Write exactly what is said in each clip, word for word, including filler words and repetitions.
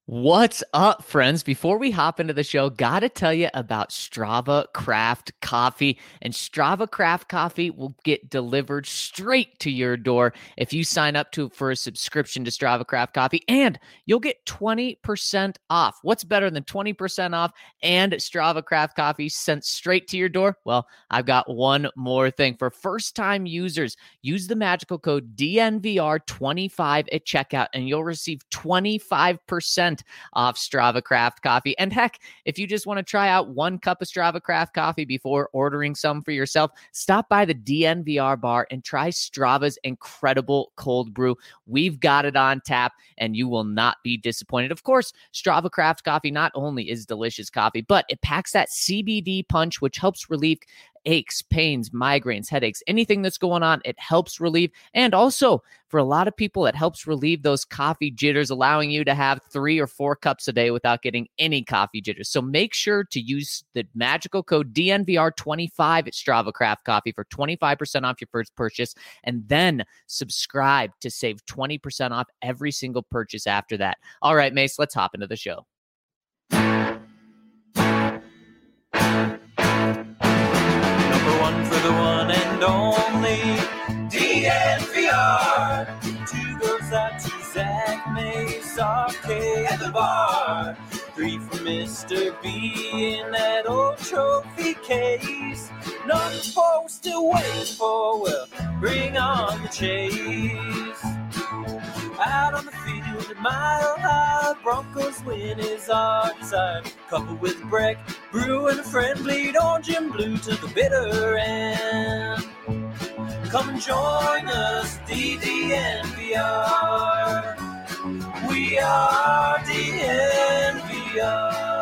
What's up, friends? Before we hop into the show, gotta tell you about Strava Craft Coffee. And Strava Craft Coffee will get delivered straight to your door if you sign up to for a subscription to Strava Craft Coffee, and you'll get twenty percent off. What's better than twenty percent off and Strava Craft Coffee sent straight to your door? Well, I've got one more thing. For first-time users, use the magical code D N V R twenty-five at checkout, and you'll receive twenty-five percent off Strava Craft Coffee. And heck, if you just want to try out one cup of Strava Craft Coffee before ordering some for yourself, stop by the D N V R bar and try Strava's incredible cold brew. We've got it on tap, and you will not be disappointed. Of course, Strava Craft Coffee not only is delicious coffee, but it packs that C B D punch, which helps relieve aches, pains, migraines, headaches, anything that's going on, it helps relieve. And also, for a lot of people, it helps relieve those coffee jitters, allowing you to have three or four cups a day without getting any coffee jitters. So make sure to use the magical code D N V R twenty-five at Strava Craft Coffee for twenty-five percent off your first purchase, and then subscribe to save twenty percent off every single purchase after that. All right, Mace, let's hop into the show. For the one and only D N V R. Two goes out to Zach Mace, R K at the bar. Three for Mister B in that old trophy case. Nothing supposed to wait for, well, bring on the chase. Out on the field, a mile high, Broncos win is our desire. Couple with Breck, Brew and a friend, bleed orange and blue to the bitter end. Come and join us, D D N V R. We are D N V R.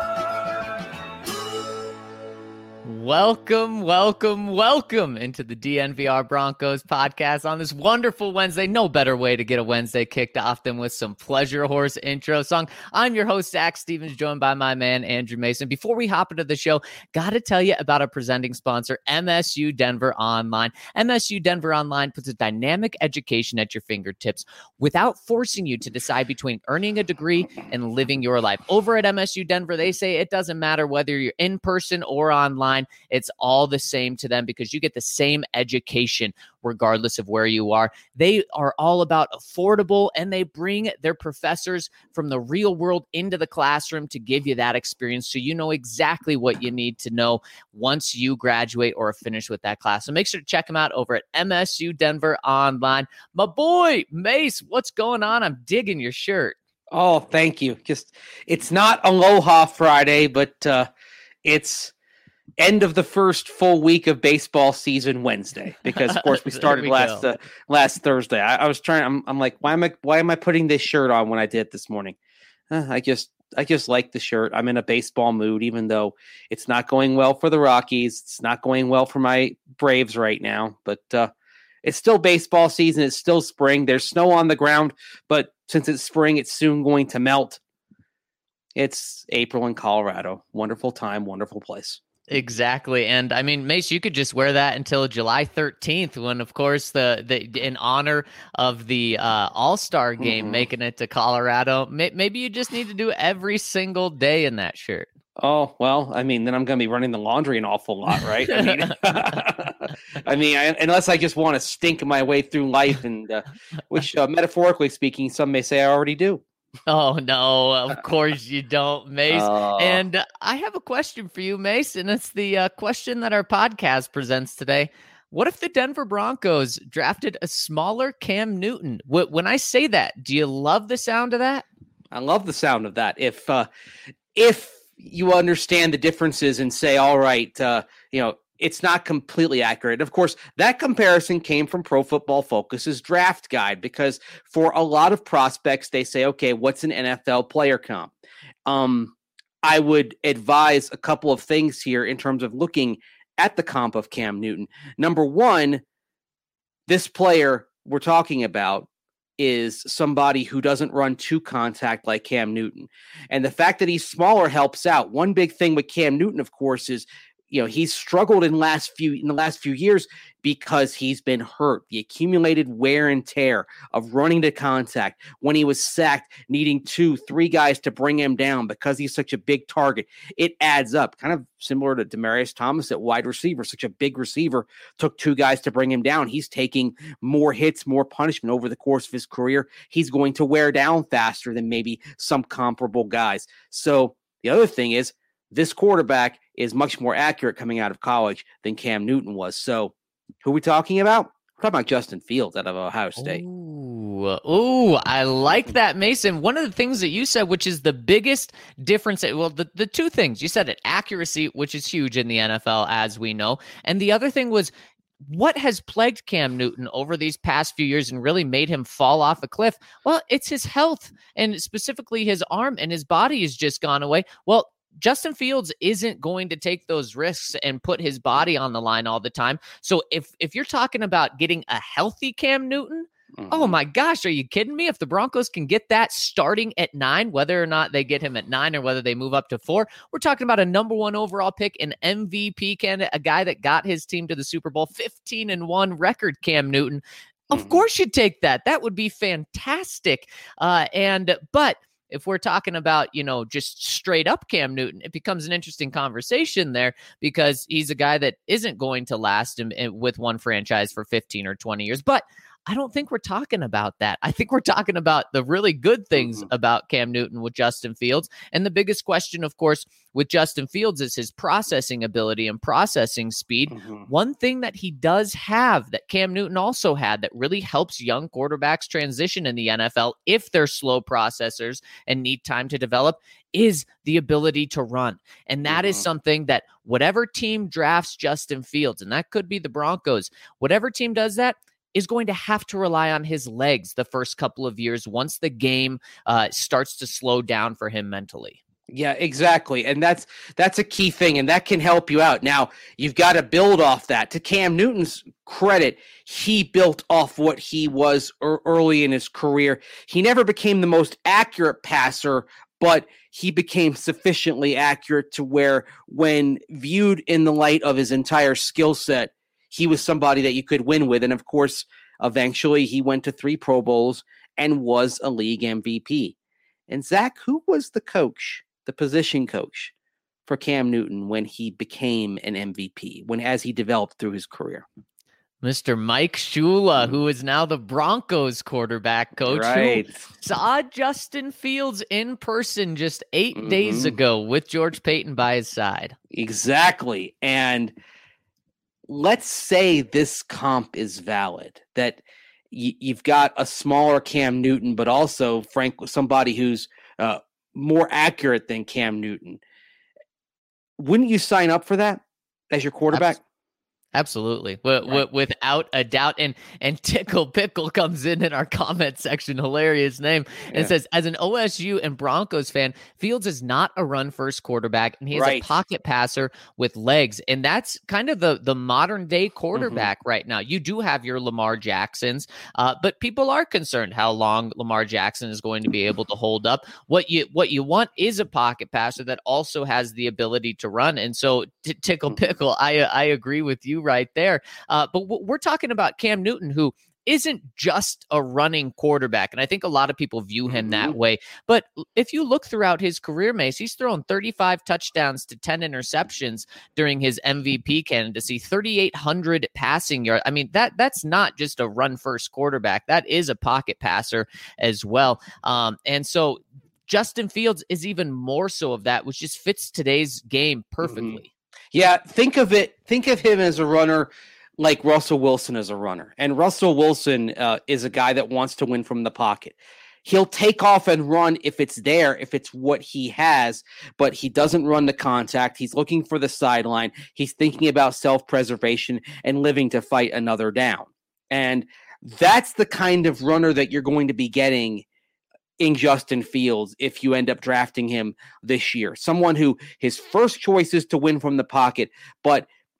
Welcome, welcome, welcome into the D N V R Broncos podcast on this wonderful Wednesday. No better way to get a Wednesday kicked off than with some Pleasure Horse intro song. I'm your host, Zach Stevens, joined by my man, Andrew Mason. Before we hop into the show, got to tell you about our presenting sponsor, M S U Denver Online. M S U Denver Online puts a dynamic education at your fingertips without forcing you to decide between earning a degree and living your life. Over at M S U Denver, they say it doesn't matter whether you're in person or online. It's all the same to them because you get the same education regardless of where you are. They are all about affordable, and they bring their professors from the real world into the classroom to give you that experience so you know exactly what you need to know once you graduate or finish with that class. So make sure to check them out over at M S U Denver Online. My boy, Mace, what's going on? I'm digging your shirt. Oh, thank you. Just, it's not Aloha Friday, but uh, it's end of the first full week of baseball season Wednesday, because of course we started we last uh, last Thursday. I, I was trying. I'm, I'm like, why am I why am I putting this shirt on when I did it this morning? Uh, I just I just like the shirt. I'm in a baseball mood, even though it's not going well for the Rockies. It's not going well for my Braves right now, but uh, it's still baseball season. It's still spring. There's snow on the ground, but since it's spring, it's soon going to melt. It's April in Colorado. Wonderful time, wonderful place. Exactly. And I mean, Mace, you could just wear that until July thirteenth, when, of course, the, the in honor of the uh, All-Star game mm-hmm. making it to Colorado, may, maybe you just need to do every single day in that shirt. Oh, well, I mean, then I'm going to be running the laundry an awful lot, right? I mean, I mean, I, unless I just want to stink my way through life, and uh, which, uh, metaphorically speaking, some may say I already do. Oh, no, of course you don't, Mace. Uh, and I have a question for you, Mace, and it's the uh, question that our podcast presents today. What if the Denver Broncos drafted a smaller Cam Newton? When I say that, do you love the sound of that? I love the sound of that. If uh, if you understand the differences and say, all right, uh, you know, it's not completely accurate. Of course, that comparison came from Pro Football Focus's draft guide, because for a lot of prospects, they say, okay, what's an N F L player comp? Um, I would advise a couple of things here in terms of looking at the comp of Cam Newton. Number one, this player we're talking about is somebody who doesn't run to contact like Cam Newton. And the fact that he's smaller helps out. One big thing with Cam Newton, of course, is, you know, he's struggled in last few in the last few years because he's been hurt. The accumulated wear and tear of running to contact when he was sacked, needing two, three guys to bring him down because he's such a big target. It adds up, kind of similar to Demaryius Thomas at wide receiver. Such a big receiver, took two guys to bring him down. He's taking more hits, more punishment over the course of his career. He's going to wear down faster than maybe some comparable guys. So the other thing is, this quarterback is much more accurate coming out of college than Cam Newton was. So who are we talking about? We're talking about Justin Fields out of Ohio State. Ooh, ooh, I like that, Mason. One of the things that you said, which is the biggest difference, well, the, the two things, you said it, accuracy, which is huge in the N F L, as we know. And the other thing was, what has plagued Cam Newton over these past few years and really made him fall off a cliff? Well, it's his health, and specifically his arm, and his body has just gone away. Well, Justin Fields isn't going to take those risks and put his body on the line all the time. So if if you're talking about getting a healthy Cam Newton, mm-hmm. oh my gosh, are you kidding me? If the Broncos can get that starting at nine, whether or not they get him at nine or whether they move up to four, we're talking about a number one overall pick, an M V P candidate, a guy that got his team to the Super Bowl, fifteen and one record, Cam Newton. Of mm-hmm. course you'd take that. That would be fantastic. Uh, and but if we're talking about, you know, just straight up Cam Newton, it becomes an interesting conversation there because he's a guy that isn't going to last in, in, with one franchise for fifteen or twenty years. But I don't think we're talking about that. I think we're talking about the really good things mm-hmm. about Cam Newton with Justin Fields. And the biggest question, of course, with Justin Fields is his processing ability and processing speed. Mm-hmm. One thing that he does have that Cam Newton also had that really helps young quarterbacks transition in the N F L if they're slow processors and need time to develop is the ability to run. And that mm-hmm. is something that whatever team drafts Justin Fields, and that could be the Broncos, whatever team does that, is going to have to rely on his legs the first couple of years once the game uh, starts to slow down for him mentally. Yeah, exactly. And that's that's a key thing, and that can help you out. Now, you've got to build off that. To Cam Newton's credit, he built off what he was er- early in his career. He never became the most accurate passer, but he became sufficiently accurate to where, when viewed in the light of his entire skill set, he was somebody that you could win with. And of course, eventually he went to three Pro Bowls and was a league M V P. And Zach, who was the coach, the position coach for Cam Newton when he became an M V P, when as he developed through his career? Mister Mike Shula, who is now the Broncos quarterback coach, right. who saw Justin Fields in person just eight mm-hmm. days ago with George Paton by his side. Exactly. And let's say this comp is valid, that y- you've got a smaller Cam Newton, but also, frankly, somebody who's uh, more accurate than Cam Newton. Wouldn't you sign up for that as your quarterback? Absolutely. Absolutely. W- right. w- without a doubt. And and Tickle Pickle comes in in our comment section, hilarious name, and yeah. says, as an O S U and Broncos fan, Fields is not a run-first quarterback, and he's right. a pocket passer with legs. And that's kind of the, the modern-day quarterback mm-hmm. right now. You do have your Lamar Jacksons, uh, but people are concerned how long Lamar Jackson is going to be able to hold up. What you what you want is a pocket passer that also has the ability to run. And so, t- Tickle Pickle, I I agree with you right there. Uh, but w- we're talking about Cam Newton, who isn't just a running quarterback. And I think a lot of people view him mm-hmm. that way. But if you look throughout his career, Mace, he's thrown thirty-five touchdowns to ten interceptions during his M V P candidacy, thirty-eight hundred passing yards. I mean, that that's not just a run-first quarterback. That is a pocket passer as well. Um, and so Justin Fields is even more so of that, which just fits today's game perfectly. Mm-hmm. Yeah, think of it. Think of him as a runner like Russell Wilson is a runner. And Russell Wilson uh, is a guy that wants to win from the pocket. He'll take off and run if it's there, if it's what he has, but he doesn't run the contact. He's looking for the sideline. He's thinking about self-preservation and living to fight another down. And that's the kind of runner that you're going to be getting in Justin Fields if you end up drafting him this year. Someone who his first choice is to win from the pocket, but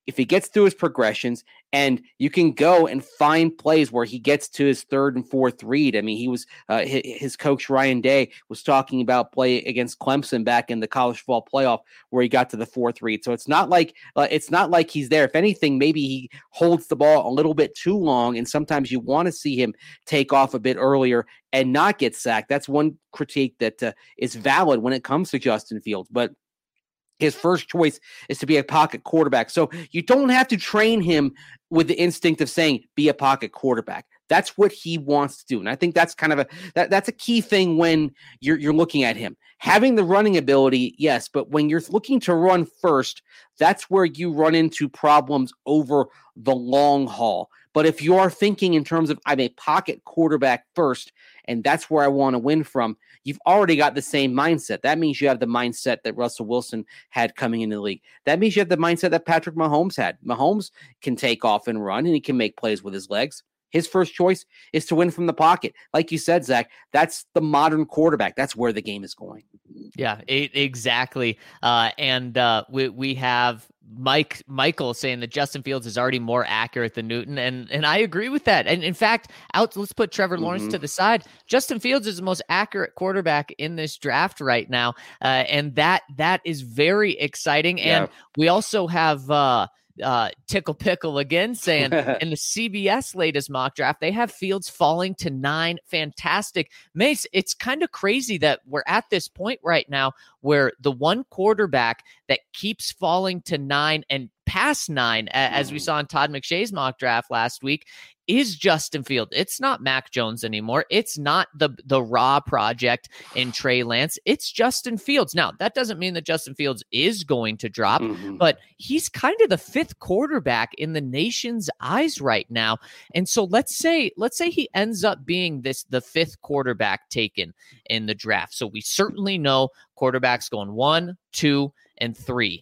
if he gets through his progressions and you can go and find plays where he gets to his third and fourth read. I mean, he was uh, his, his coach Ryan Day was talking about play against Clemson back in the college football playoff where he got to the fourth read. So it's not like uh, it's not like he's there. If anything, maybe he holds the ball a little bit too long, and sometimes you want to see him take off a bit earlier and not get sacked. That's one critique that uh, is valid when it comes to Justin Fields, but his first choice is to be a pocket quarterback. So you don't have to train him with the instinct of saying, be a pocket quarterback. That's what he wants to do. And I think that's kind of a, that, that's a key thing when you're, you're looking at him. Having the running ability, yes, but when you're looking to run first, that's where you run into problems over the long haul. But if you are thinking in terms of, I'm a pocket quarterback first, and that's where I want to win from, you've already got the same mindset. That means you have the mindset that Russell Wilson had coming into the league. That means you have the mindset that Patrick Mahomes had. Mahomes can take off and run, and he can make plays with his legs. His first choice is to win from the pocket. Like you said, Zach, that's the modern quarterback. That's where the game is going. Yeah, it, exactly. Uh, and uh, we we have Mike Michael saying that Justin Fields is already more accurate than Newton, and and I agree with that. And in fact, out let's put Trevor Lawrence mm-hmm. to the side. Justin Fields is the most accurate quarterback in this draft right now, uh, and that that is very exciting. Yeah. And we also have. Uh, Uh, Tickle Pickle again saying in the C B S latest mock draft, they have Fields falling to nine. Fantastic. Mace, it's kind of crazy that we're at this point right now where the one quarterback that keeps falling to nine and past nine, as we saw in Todd McShay's mock draft last week, is Justin Fields. It's not Mac Jones anymore. It's not the the raw project in Trey Lance. It's Justin Fields. Now, that doesn't mean that Justin Fields is going to drop, mm-hmm. but he's kind of the fifth quarterback in the nation's eyes right now. And so let's say let's say he ends up being this the fifth quarterback taken in the draft. So we certainly know quarterbacks going one, two, and three.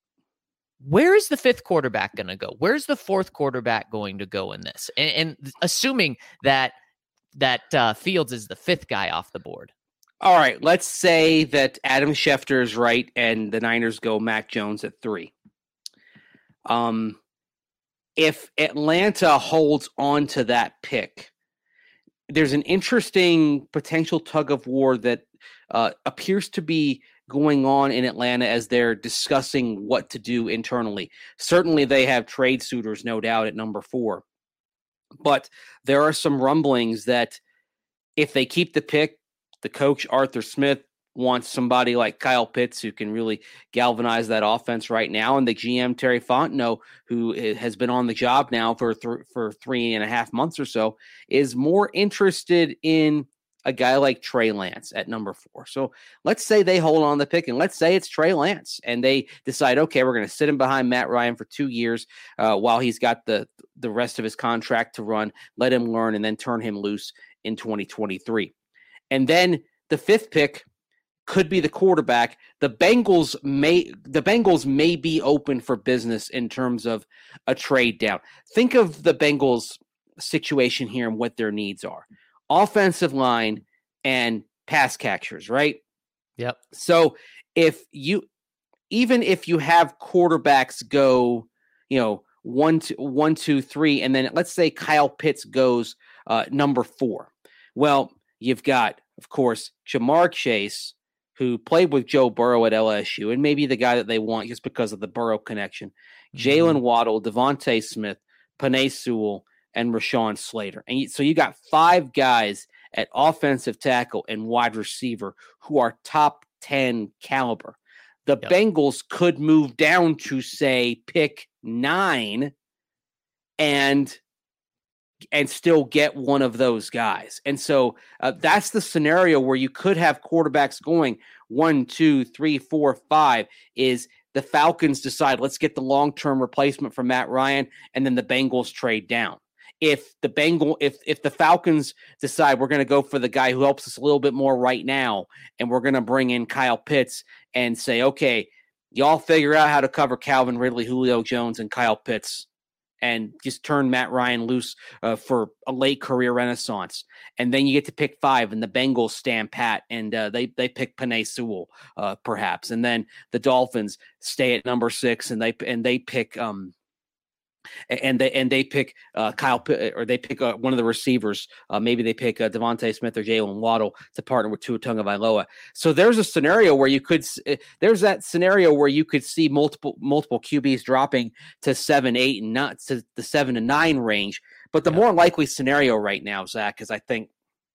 Where is the fifth quarterback going to go? Where's the fourth quarterback going to go in this? And, and assuming that that uh, Fields is the fifth guy off the board. All right, let's say that Adam Schefter is right and the Niners go Mac Jones at three. Um, if Atlanta holds on to that pick, there's an interesting potential tug of war that uh, appears to be going on in Atlanta as they're discussing what to do internally. Certainly they have trade suitors, no doubt, at number four. But there are some rumblings that if they keep the pick, the coach, Arthur Smith, wants somebody like Kyle Pitts who can really galvanize that offense right now. And the G M, Terry Fontenot, who has been on the job now for, th- for three and a half months or so, is more interested in a guy like Trey Lance at number four. So let's say they hold on the pick, and let's say it's Trey Lance, and they decide, okay, we're going to sit him behind Matt Ryan for two years uh, while he's got the the rest of his contract to run, let him learn, and then turn him loose in twenty twenty-three. And then the fifth pick could be the quarterback. The Bengals may the Bengals may be open for business in terms of a trade down. Think of the Bengals situation here and what their needs are. Offensive line and pass catchers, right? Yep. So if you, even if you have quarterbacks go, you know, one, two, one, two, three, and then let's say Kyle Pitts goes uh, number four. Well, you've got, of course, Jamar Chase, who played with Joe Burrow at L S U, and maybe the guy that they want just because of the Burrow connection. Mm-hmm. Jalen Waddle, Devontae Smith, Penei Sewell, and Rashawn Slater. And so you got five guys at offensive tackle and wide receiver who are top ten caliber. The yep. Bengals could move down to, say, pick nine and and still get one of those guys. And so uh, that's the scenario where you could have quarterbacks going one, two, three, four, five is the Falcons decide, let's get the long-term replacement for Matt Ryan, and then the Bengals trade down. If the Bengal, if if the Falcons decide we're going to go for the guy who helps us a little bit more right now, and we're going to bring in Kyle Pitts and say, okay, y'all figure out how to cover Calvin Ridley, Julio Jones, and Kyle Pitts, and just turn Matt Ryan loose uh, for a late career renaissance. And then you get to pick five, and the Bengals stand pat, and uh, they they pick Penei Sewell, uh, perhaps, and then the Dolphins stay at number six, and they and they pick um. and they and they pick uh, Kyle or they pick uh, one of the receivers. Uh, maybe they pick uh, Devontae Smith or Jalen Waddle to partner with Tua Tagovailoa. So there's a scenario where you could there's that scenario where you could see multiple multiple Q Bs dropping to seven, eight, and not to the seven to nine range. But the yeah. more likely scenario right now, Zach, is I think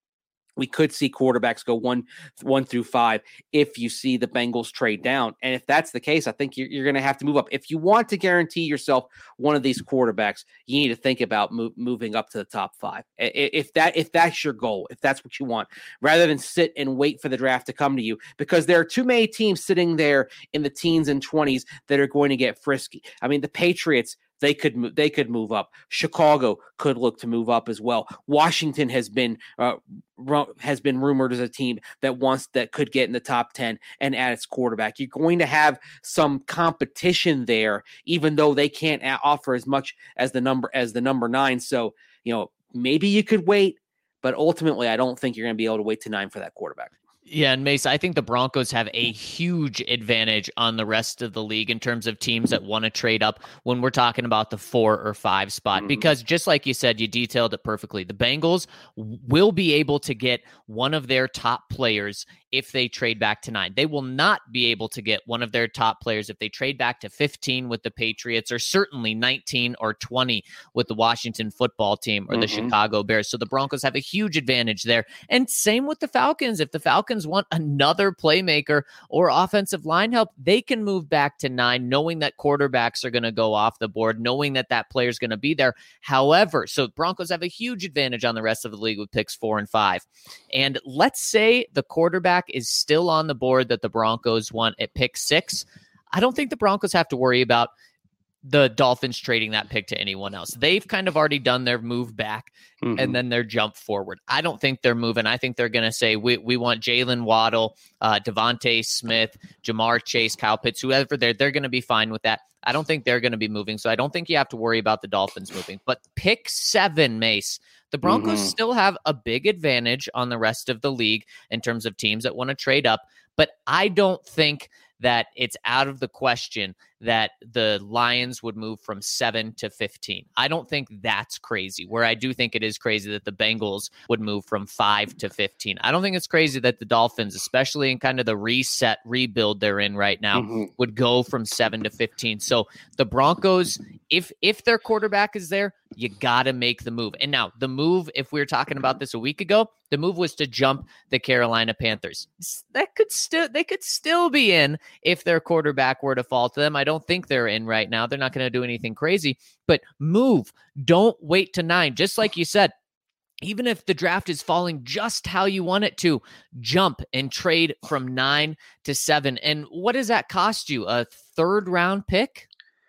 we could see quarterbacks go one, one through five if you see the Bengals trade down. And if that's the case, I think you're, you're going to have to move up. If you want to guarantee yourself one of these quarterbacks, you need to think about move, moving up to the top five. If that if that's your goal, if that's what you want, rather than sit and wait for the draft to come to you, because there are too many teams sitting there in the teens and twenties that are going to get frisky. I mean, the Patriots, They could move, they could move up. Chicago could look to move up as well. Washington has been uh, ru- has been rumored as a team that wants that could get in the top ten and add its quarterback. You're going to have some competition there, even though they can't a- offer as much as the number as the number nine. So you know maybe you could wait, but ultimately I don't think you're going to be able to wait to nine for that quarterback. Yeah, and Mace, I think the Broncos have a huge advantage on the rest of the league in terms of teams that want to trade up when we're talking about the four or five spot. Mm-hmm. Because just like you said, you detailed it perfectly. The Bengals will be able to get one of their top players if they trade back to nine. They will not be able to get one of their top players if they trade back to fifteen with the Patriots, or certainly nineteen or twenty with the Washington football team or the mm-hmm. Chicago Bears. So the Broncos have a huge advantage there. And same with the Falcons. If the Falcons want another playmaker or offensive line help, they can move back to nine, knowing that quarterbacks are going to go off the board, knowing that that player is going to be there. However, so Broncos have a huge advantage on the rest of the league with picks four and five. And let's say the quarterback is still on the board that the Broncos want at pick six. I don't think the Broncos have to worry about the Dolphins trading that pick to anyone else. They've kind of already done their move back mm-hmm. and then their jump forward. I don't think they're moving. I think they're going to say, we we want Jalen Waddle, uh, Devontae Smith, Jamar Chase, Kyle Pitts, whoever they're, they're going to be fine with that. I don't think they're going to be moving. So I don't think you have to worry about the Dolphins moving. But pick seven, Mace, the Broncos mm-hmm. still have a big advantage on the rest of the league in terms of teams that want to trade up. But I don't think that it's out of the question that the Lions would move from seven to fifteen. I don't think that's crazy, where I do think it is crazy that the Bengals would move from five to fifteen. I don't think it's crazy that the Dolphins, especially in kind of the reset rebuild they're in right now, mm-hmm. would go from seven to fifteen. So the Broncos, if if their quarterback is there, you got to make the move. And now the move, if we were talking about this a week ago, the move was to jump the Carolina Panthers. That could still they could still be in if their quarterback were to fall to them. I don't think they're in right now. They're not going to do anything crazy, but move. Don't wait to nine. Just like you said, even if the draft is falling just how you want it to, jump and trade from nine to seven. And what does that cost you? A third round pick?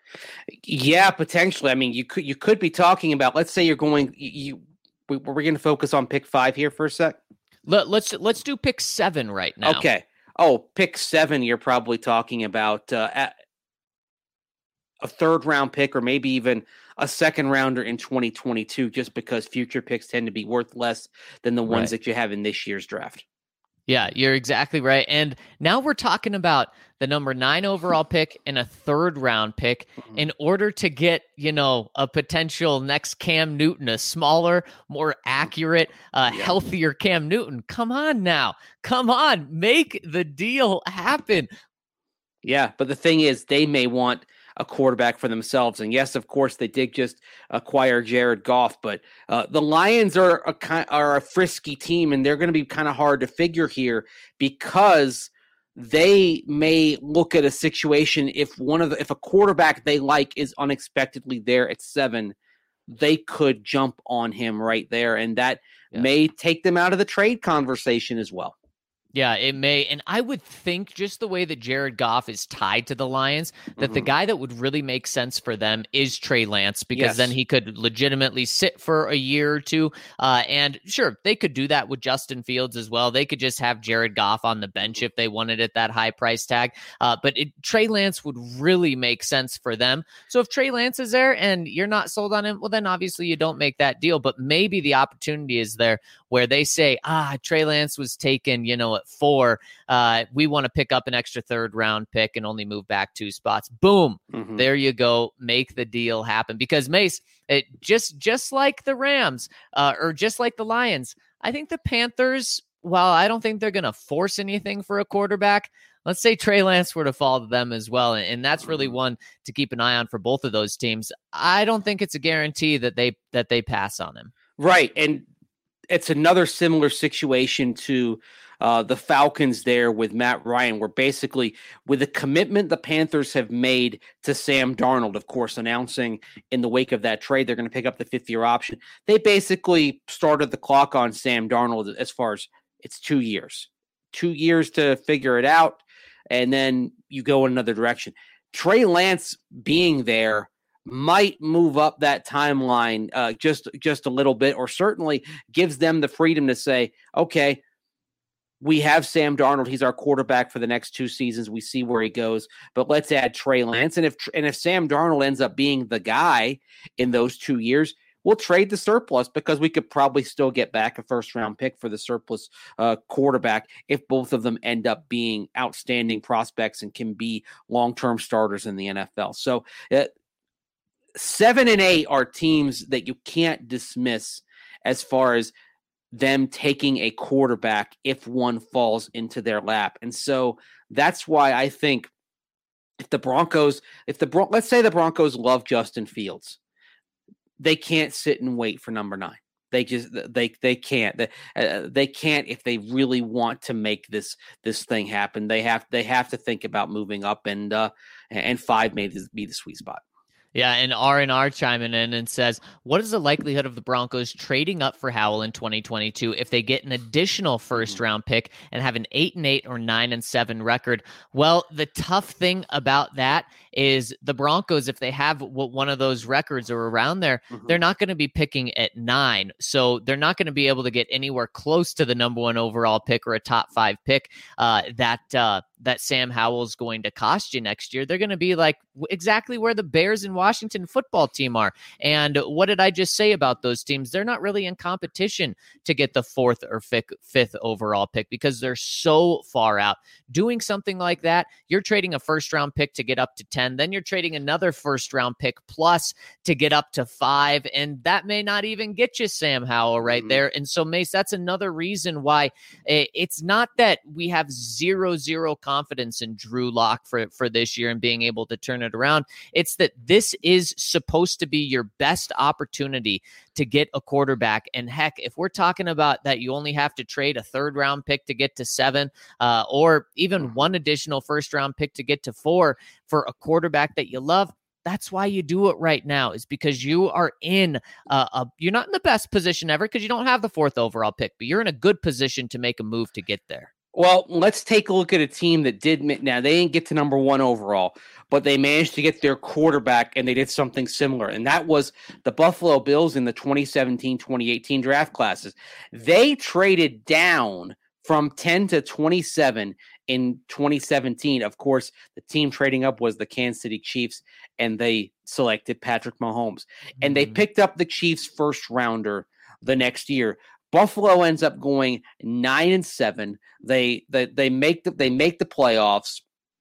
Yeah, potentially. I mean, you could you could be talking about, let's say you're going, you we, we're going to focus on pick five here for a sec. Let, let's let's do pick seven right now. Okay. Oh, pick seven, you're probably talking about uh, at a third round pick or maybe even a second rounder in twenty twenty-two, just because future picks tend to be worth less than the ones right. that you have in this year's draft. Yeah, you're exactly right. And now we're talking about the number nine overall pick and a third round pick mm-hmm. in order to get, you know, a potential next Cam Newton, a smaller, more accurate, uh, yeah. healthier Cam Newton. Come on now. Come on. Make the deal happen. Yeah, but the thing is, they may want a quarterback for themselves. And yes, of course, they did just acquire Jared Goff, but uh, the Lions are a, are a frisky team, and they're going to be kind of hard to figure here because they may look at a situation if one of the, if a quarterback they like is unexpectedly there at seven, they could jump on him right there, and that yeah. may take them out of the trade conversation as well. Yeah, it may. And I would think just the way that Jared Goff is tied to the Lions, that mm-hmm. the guy that would really make sense for them is Trey Lance, because yes. then he could legitimately sit for a year or two. Uh, and sure, they could do that with Justin Fields as well. They could just have Jared Goff on the bench if they wanted at that high price tag. Uh, but it, Trey Lance would really make sense for them. So if Trey Lance is there and you're not sold on him, well, then obviously you don't make that deal. But maybe the opportunity is there where they say, ah, Trey Lance was taken, you know, at four. Uh, we want to pick up an extra third round pick and only move back two spots. Boom. Mm-hmm. There you go. Make the deal happen. Because Mace, it just, just like the Rams uh, or just like the Lions, I think the Panthers, while I don't think they're going to force anything for a quarterback, let's say Trey Lance were to fall to them as well. And that's really one to keep an eye on for both of those teams. I don't think it's a guarantee that they, that they pass on him. Right. And it's another similar situation to uh, the Falcons there with Matt Ryan, where basically with the commitment the Panthers have made to Sam Darnold, of course, announcing in the wake of that trade, they're going to pick up the fifth year option. They basically started the clock on Sam Darnold as far as it's two years, two years to figure it out. And then you go in another direction. Trey Lance being there might move up that timeline uh, just, just a little bit, or certainly gives them the freedom to say, okay, we have Sam Darnold. He's our quarterback for the next two seasons. We see where he goes, but let's add Trey Lance. And if, and if Sam Darnold ends up being the guy in those two years, we'll trade the surplus because we could probably still get back a first round pick for the surplus uh, quarterback if both of them end up being outstanding prospects and can be long-term starters in the N F L. So uh, seven and eight are teams that you can't dismiss as far as them taking a quarterback if one falls into their lap. And so that's why I think if the Broncos, if the Bron- let's say the Broncos love Justin Fields, they can't sit and wait for number nine. They just they they can't they, uh, they can't if they really want to make this this thing happen. They have they have to think about moving up, and uh, and five may be the sweet spot. Yeah, and R and R chiming in and says, what is the likelihood of the Broncos trading up for Howell in twenty twenty-two if they get an additional first-round pick and have an eight and eight or nine and seven record? Well, the tough thing about that is the Broncos, if they have one of those records or around there, mm-hmm. they're not going to be picking at nine. So they're not going to be able to get anywhere close to the number one overall pick or a top five pick uh, that uh, that Sam Howell's going to cost you next year. They're going to be like exactly where the Bears and Washington football team are. And what did I just say about those teams? They're not really in competition to get the fourth or fifth, fifth overall pick because they're so far out. Doing something like that, you're trading a first round pick to get up to ten. Then you're trading another first round pick plus to get up to five. And that may not even get you Sam Howell right mm-hmm. there. And so, Mace, that's another reason why it's not that we have zero, zero confidence in Drew Lock for, for this year and being able to turn it around. It's that this is supposed to be your best opportunity to get a quarterback. And heck, if we're talking about that, you only have to trade a third round pick to get to seven, uh, or even one additional first round pick to get to four for a quarterback that you love. That's why you do it right now, is because you are in uh, a, you're not in the best position ever because you don't have the fourth overall pick, but you're in a good position to make a move to get there. Well, let's take a look at a team that did, now they didn't get to number one overall, but they managed to get their quarterback and they did something similar. And that was the Buffalo Bills in the twenty seventeen twenty eighteen draft classes. They traded down from ten to twenty-seven in twenty seventeen. Of course, the team trading up was the Kansas City Chiefs, and they selected Patrick Mahomes. Mm-hmm. And they picked up the Chiefs first rounder the next year. Buffalo ends up going nine and seven. They they they make the they make the playoffs,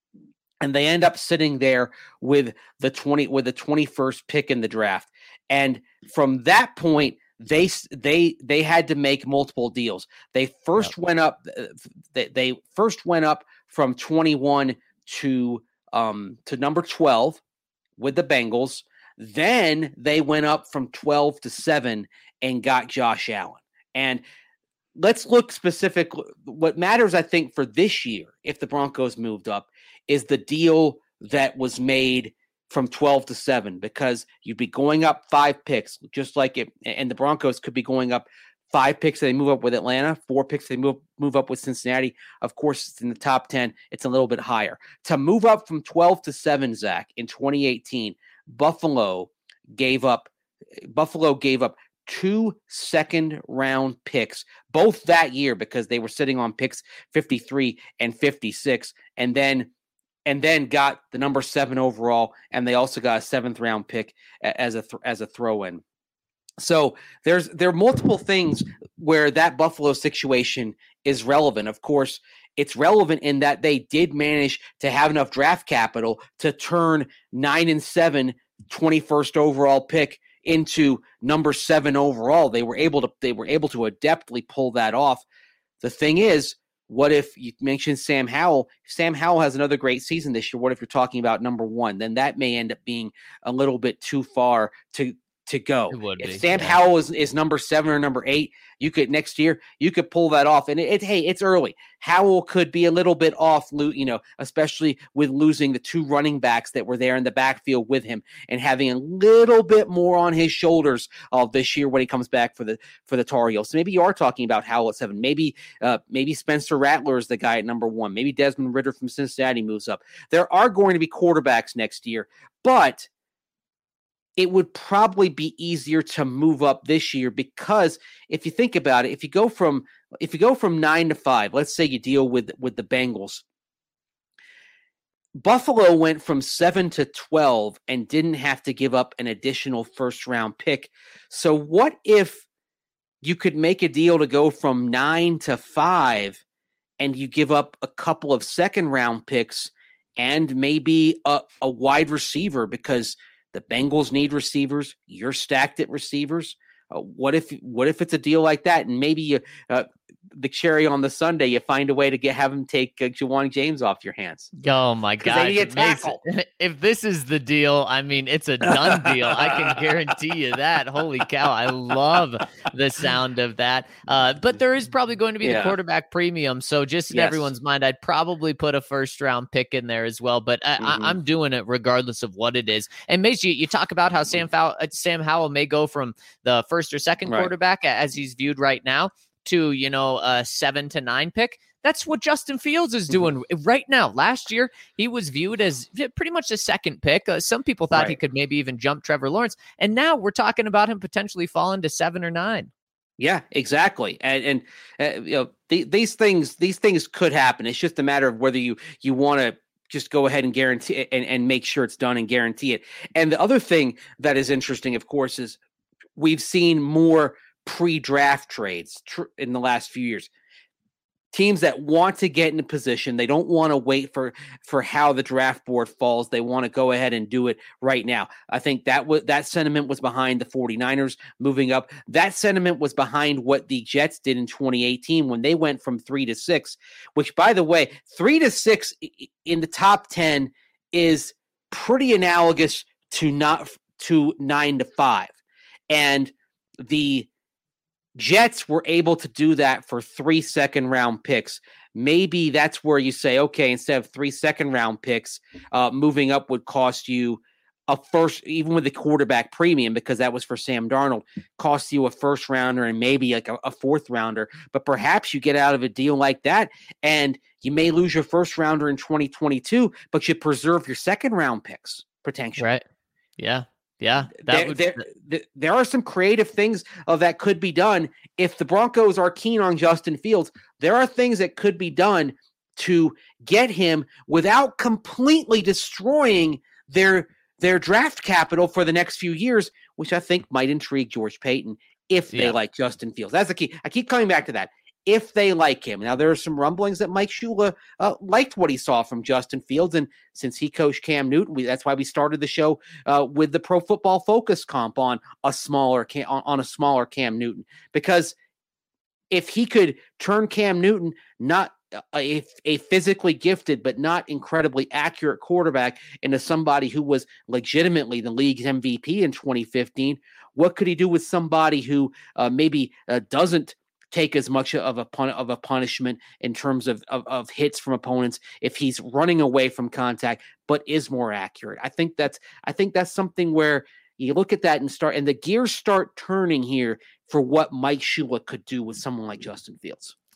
and they end up sitting there with the twenty with the twenty-first pick in the draft. And from that point, they they they had to make multiple deals. They first yep. went up. They, they first went up from twenty-one to um to number twelve with the Bengals. Then they went up from twelve to seven and got Josh Allen. And let's look specifically. What matters, I think, for this year, if the Broncos moved up, is the deal that was made from twelve to seven, because you'd be going up five picks, just like it. And the Broncos could be going up five picks. They move up with Atlanta, four picks. They move move up with Cincinnati. Of course, it's in the top ten. It's a little bit higher. To move up from twelve to seven, Zach, in twenty eighteen, Buffalo gave up. Buffalo gave up. two second round picks, both that year, because they were sitting on picks fifty-three and fifty-six, and then and then got the number seven overall, and they also got a seventh round pick as a th- as a throw in. So there's there are multiple things where that Buffalo situation is relevant. Of course, it's relevant in that they did manage to have enough draft capital to turn nine and seven, twenty-first overall pick into number seven overall. They were able to they were able to adeptly pull that off. The thing is, what if you mentioned Sam Howell? Sam Howell has another great season this year. What if you're talking about number one? Then that may end up being a little bit too far to to go. If be, Sam yeah. Howell is, is number seven or number eight, you could next year you could pull that off. And it, it hey, it's early. Howell could be a little bit off, you know, especially with losing the two running backs that were there in the backfield with him and having a little bit more on his shoulders uh, this year when he comes back for the for the Tar Heels. So maybe you are talking about Howell at seven. Maybe uh, maybe Spencer Rattler is the guy at number one. Maybe Desmond Ridder from Cincinnati moves up. There are going to be quarterbacks next year, but it would probably be easier to move up this year because if you think about it, if you go from if you go from nine to five, let's say you deal with with the Bengals. Buffalo went from seven to twelve and didn't have to give up an additional first round pick. So what if you could make a deal to go from nine to five and you give up a couple of second round picks and maybe a, a wide receiver because the Bengals need receivers. You're stacked at receivers. Uh, what if what if it's a deal like that? And maybe you, uh, the cherry on the sundae, you find a way to get have him take uh, Ja'Wuan James off your hands. Oh my God! If this is the deal, I mean, it's a done deal. I can guarantee you that. Holy cow! I love the sound of that. Uh, but there is probably going to be yeah. the quarterback premium. So just in yes. everyone's mind, I'd probably put a first round pick in there as well. But I, mm-hmm. I, I'm doing it regardless of what it is. And Mace, you, you talk about how Sam Fow- Sam Howell may go from the first or second right. quarterback as he's viewed right now to, you know, a seven to nine pick. That's what Justin Fields is doing mm-hmm. right now. Last year, he was viewed as pretty much the second pick. Uh, some people thought right. he could maybe even jump Trevor Lawrence. And now we're talking about him potentially falling to seven or nine. Yeah, exactly. And, and uh, you know, th- these things, these things could happen. It's just a matter of whether you, you want to just go ahead and guarantee it and, and make sure it's done and guarantee it. And the other thing that is interesting, of course, is we've seen more pre-draft trades tr- in the last few years. Teams that want to get in a position, they don't want to wait for, for how the draft board falls. They want to go ahead and do it right now. I think that was, that sentiment was behind the 49ers moving up. That sentiment was behind what the Jets did in twenty eighteen when they went from three to six, which, by the way, three to six in the top ten is pretty analogous to not to nine to five. And the Jets were able to do that for three second round picks. Maybe that's where you say, okay, instead of three second round picks, uh, moving up would cost you a first, even with the quarterback premium, because that was for Sam Darnold, cost you a first rounder and maybe like a, a fourth rounder. But perhaps you get out of a deal like that and you may lose your first rounder in twenty twenty-two, but you preserve your second round picks potentially. Right. Yeah. Yeah, that there, would... there, there, there are some creative things uh, that could be done. If the Broncos are keen on Justin Fields, there are things that could be done to get him without completely destroying their their draft capital for the next few years, which I think might intrigue George Paton if they yeah. like Justin Fields. That's the key. I keep coming back to that. If they like him. Now, there are some rumblings that Mike Shula uh, liked what he saw from Justin Fields. And since he coached Cam Newton, we, that's why we started the show uh, with the Pro Football Focus comp on a smaller Cam, on, on a smaller Cam Newton. Because if he could turn Cam Newton, not a, a physically gifted but not incredibly accurate quarterback, into somebody who was legitimately the league's M V P in twenty fifteen, what could he do with somebody who uh, maybe uh, doesn't take as much of a pun- of a punishment in terms of, of of hits from opponents if he's running away from contact, but is more accurate? I think that's I think that's something where you look at that and start, and the gears start turning here for what Mike Shula could do with someone like Justin Fields.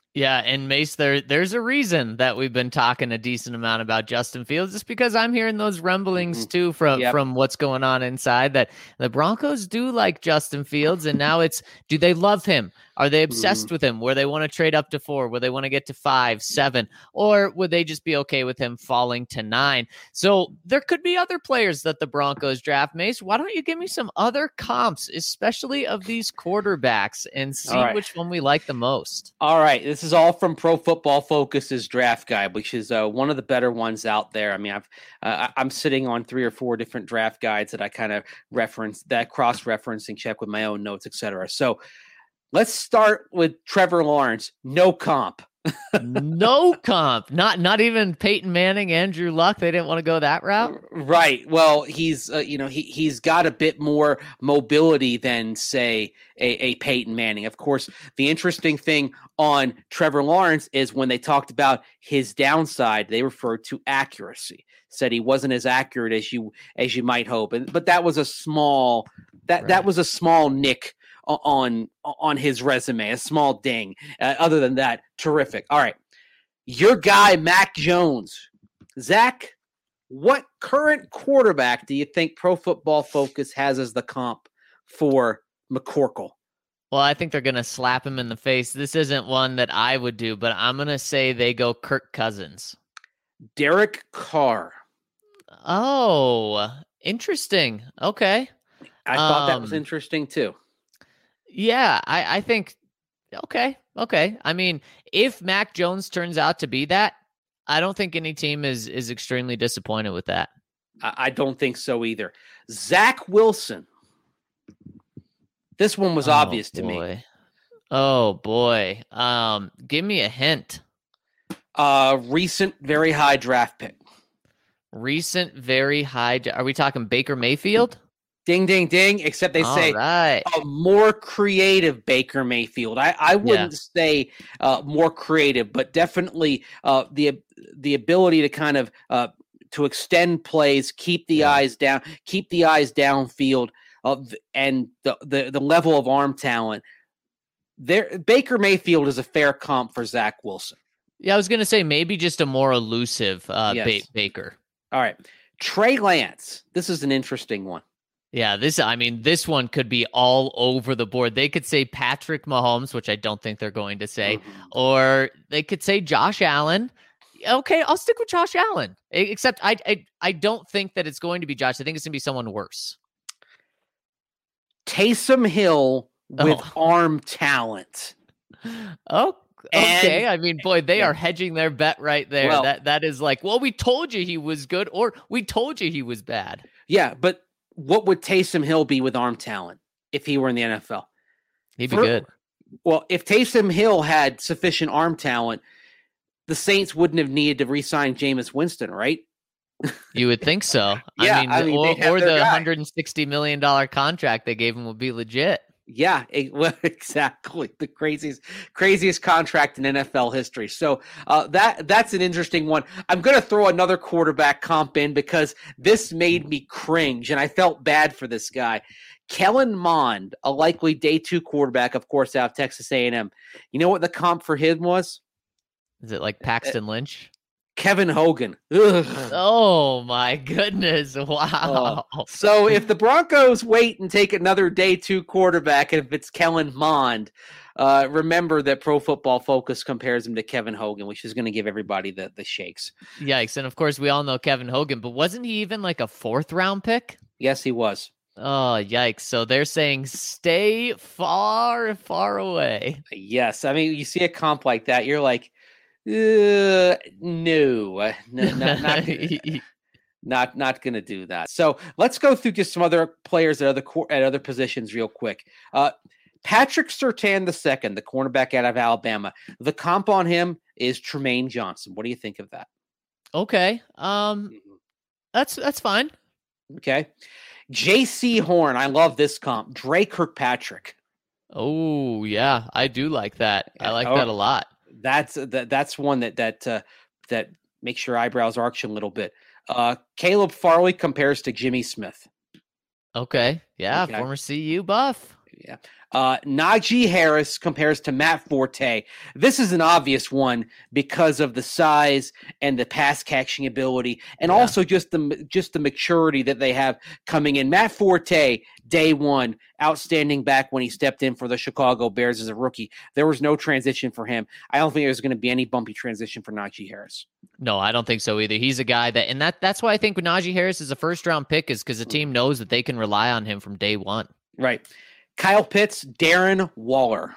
Yeah, and Mace, there there's a reason that we've been talking a decent amount about Justin Fields, just because I'm hearing those rumblings Mm-hmm. too from Yep. from what's going on inside, that the Broncos do like Justin Fields, and now it's, do they love him? Are they obsessed Mm-hmm. with him? Where they want to trade up to four? Where they want to get to five, seven? Or would they just be okay with him falling to nine? So there could be other players that the Broncos draft. Mace, why don't you give me some other comps, especially of these quarterbacks, and see right. which one we like the most? All right. This is all from Pro Football Focus's draft guide, which is uh, one of the better ones out there. I mean, I've, uh, I'm sitting on three or four different draft guides that I kind of reference, that cross-reference and check with my own notes, et cetera. So let's start with Trevor Lawrence. No comp. No comp. Not not even Peyton Manning, Andrew Luck. They didn't want to go that route. Right. Well, he's uh, you know he he's got a bit more mobility than say a, a Peyton Manning. Of course, the interesting thing on Trevor Lawrence is when they talked about his downside, they referred to accuracy. Said he wasn't as accurate as you as you might hope, and but that was a small that Right. that was a small nick on on his resume, a small ding. Uh, other than that, terrific. All right, your guy Mac Jones, Zach. What current quarterback do you think Pro Football Focus has as the comp for McCorkle? Well, I think they're going to slap him in the face. This isn't one that I would do, but I'm going to say they go Kirk Cousins. Derek Carr. Oh, interesting. Okay. I thought that was Um, interesting too. Yeah, I, I think, okay, okay. I mean, if Mac Jones turns out to be that, I don't think any team is is extremely disappointed with that. I, I don't think so either. Zach Wilson. This one was Oh, obvious to me. boy. Oh, boy. Um, give me a hint. Uh, recent very high draft pick. Recent, very high. Are we talking Baker Mayfield? Ding, ding, ding. Except they All say right. a more creative Baker Mayfield. I, I wouldn't Yeah. say uh, more creative, but definitely uh, the the ability to kind of uh, to extend plays, keep the Yeah. eyes down, keep the eyes downfield, uh, and the, the the level of arm talent. There, Baker Mayfield is a fair comp for Zach Wilson. Yeah, I was going to say maybe just a more elusive uh, Yes. ba- Baker. All right, Trey Lance. This is an interesting one. Yeah, this, I mean, this one could be all over the board. They could say Patrick Mahomes, which I don't think they're going to say, Mhm. or they could say Josh Allen. Okay, I'll stick with Josh Allen. E- Except I, I, I don't think that it's going to be Josh. I think it's going to be someone worse. Taysom Hill with Oh. arm talent. Oh, okay. And- I mean, boy, they yeah. are hedging their bet right there. Well- that that is like, well, we told you he was good, or we told you he was bad. Yeah, but what would Taysom Hill be with arm talent if he were in the N F L? He'd be For- good. Well, if Taysom Hill had sufficient arm talent, the Saints wouldn't have needed to re-sign Jameis Winston, right? You would think so. Yeah, I mean, I mean, or, they'd have or their the guy. one hundred sixty million dollars contract they gave him would be legit. Yeah, it, well, exactly. The craziest, craziest contract in N F L history. So uh, that that's an interesting one. I'm going to throw another quarterback comp in because this made me cringe, and I felt bad for this guy. Kellen Mond, a likely day two quarterback, of course, out of Texas A and M. You know what the comp for him was? Is it like Paxton Lynch? Kevin Hogan. Ugh. Oh my goodness. Wow. So if the Broncos wait and take another day two quarterback, and if it's Kellen Mond, uh, remember that Pro Football Focus compares him to Kevin Hogan, which is going to give everybody the, the shakes. Yikes. And of course, we all know Kevin Hogan, but wasn't he even like a fourth round pick? Yes, he was. Oh, yikes. So they're saying stay far, far away. Yes. I mean, you see a comp like that, you're like, uh, no, uh, no, not, not, not, not going to do that. So let's go through just some other players at other, at other positions real quick. Uh, Patrick Surtain the second, the cornerback out of Alabama. The comp on him is Tremaine Johnson. What do you think of that? Okay. Um, that's, that's fine. Okay. J C Horn. I love this comp. Dre Kirkpatrick. Oh yeah. I do like that. I like Oh, that a lot. That's that, that's one that, that, uh, that makes your eyebrows arch a little bit. Uh, Caleb Farley compares to Jimmy Smith. Okay. Yeah. Okay. Former C U buff. Yeah. Uh, Najee Harris compares to Matt Forte. This is an obvious one because of the size and the pass catching ability, and yeah. also just the just the maturity that they have coming in. Matt Forte, day one, outstanding back when he stepped in for the Chicago Bears as a rookie. There was no transition for him. I don't think there's going to be any bumpy transition for Najee Harris. No, I don't think so either. He's a guy that, and that that's why I think Najee Harris is a first round pick, is because the team knows that they can rely on him from day one. Right. Kyle Pitts, Darren Waller.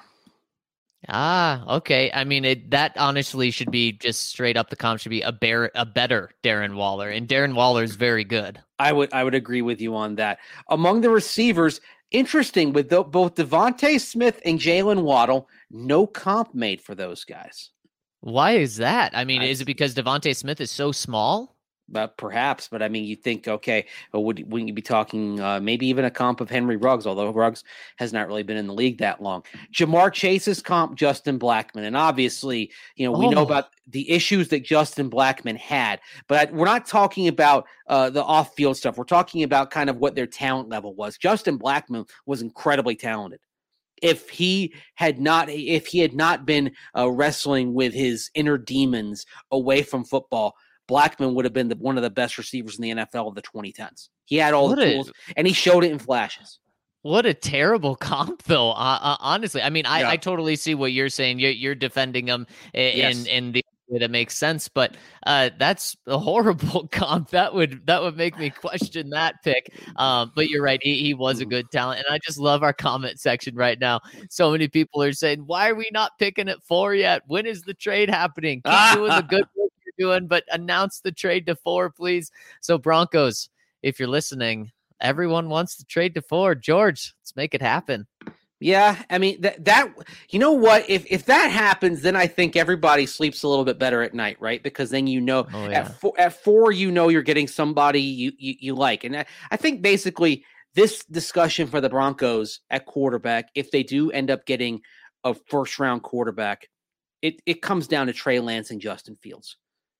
Ah, okay. I mean, it, that honestly should be just straight up the comp should be a bear, a better Darren Waller, and Darren Waller is very good. I would I would agree with you on that. Among the receivers, interesting with the, both Devontae Smith and Jalen Waddle, no comp made for those guys. Why is that? I mean, I, is it because Devontae Smith is so small? But perhaps, but I mean, you think, okay, well, would, wouldn't you be talking uh, maybe even a comp of Henry Ruggs, although Ruggs has not really been in the league that long. Jamar Chase's comp, Justin Blackmon. And obviously, you know, we oh. know about the issues that Justin Blackmon had, but we're not talking about uh, the off-field stuff. We're talking about kind of what their talent level was. Justin Blackmon was incredibly talented. If he had not, if he had not been uh, wrestling with his inner demons away from football, Blackmon would have been the, one of the best receivers in the N F L of the twenty tens. He had all what the tools, a, and he showed it in flashes. What a terrible comp, though. Uh, uh, honestly, I mean, I, yeah. I totally see what you're saying. You're, you're defending him in yes. in the way that makes sense, but uh, that's a horrible comp. That would that would make me question that pick. Um, but you're right. He, he was a good talent, and I just love our comment section right now. So many people are saying, "Why are we not picking at four yet? When is the trade happening? Keep doing the good work doing, but announce the trade to four, please." So Broncos, if you're listening, everyone wants to trade to four. George, let's make it happen. Yeah, I mean that that you know what, if if that happens, then I think everybody sleeps a little bit better at night, right? Because then you know oh, yeah. at four, at four you know you're getting somebody you you, you like, and I, I think basically this discussion for the Broncos at quarterback, if they do end up getting a first round quarterback, it it comes down to Trey Lance and Justin Fields.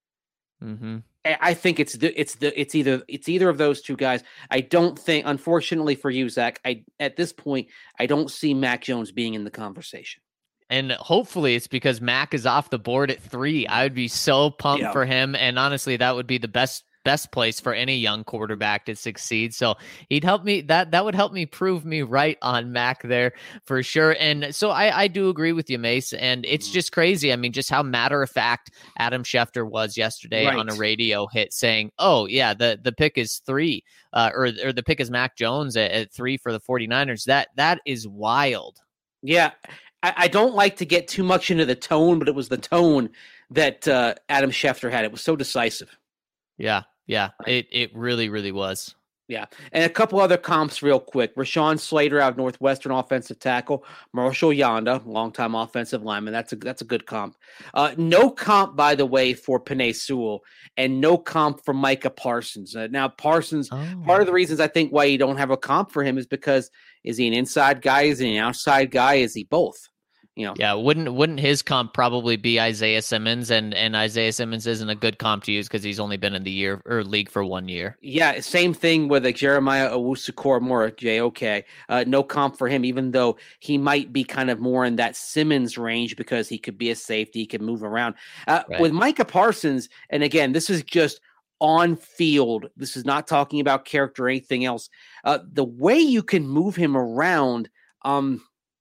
Mm-hmm. I think it's the it's the it's either it's either of those two guys. I don't think, unfortunately for you, Zach, I at this point I don't see Mac Jones being in the conversation. And hopefully it's because Mac is off the board at three. I would be so pumped yeah. for him, and honestly, that would be the best best place for any young quarterback to succeed. So he'd help me that that would help me prove me right on Mac there for sure. And so I, I do agree with you, Mace. And it's just crazy. I mean, just how matter of fact Adam Schefter was yesterday right. on a radio hit saying, oh yeah, the, the pick is three uh, or, or the pick is Mac Jones at, at three for the 49ers. That that is wild. Yeah. I, I don't like to get too much into the tone, but it was the tone that uh, Adam Schefter had. It was so decisive. Yeah. Yeah, it, it really, really was. Yeah. And a couple other comps real quick. Rashawn Slater out of Northwestern, offensive tackle. Marshall Yanda, longtime offensive lineman. That's a that's a good comp. Uh, no comp, by the way, for Penei Sewell, and no comp for Micah Parsons. Uh, now, Parsons, oh. part of the reasons I think why you don't have a comp for him is because is he an inside guy? Is he an outside guy? Is he both? You know, yeah, wouldn't wouldn't his comp probably be Isaiah Simmons, and, and Isaiah Simmons isn't a good comp to use because he's only been in the year or league for one year. Yeah, same thing with like Jeremiah Owusu-Koramoah, J O K. Uh, no comp for him, even though he might be kind of more in that Simmons range because he could be a safety, he can move around. Uh, right. With Micah Parsons, and again, this is just on field. This is not talking about character or anything else. Uh, the way you can move him around, um.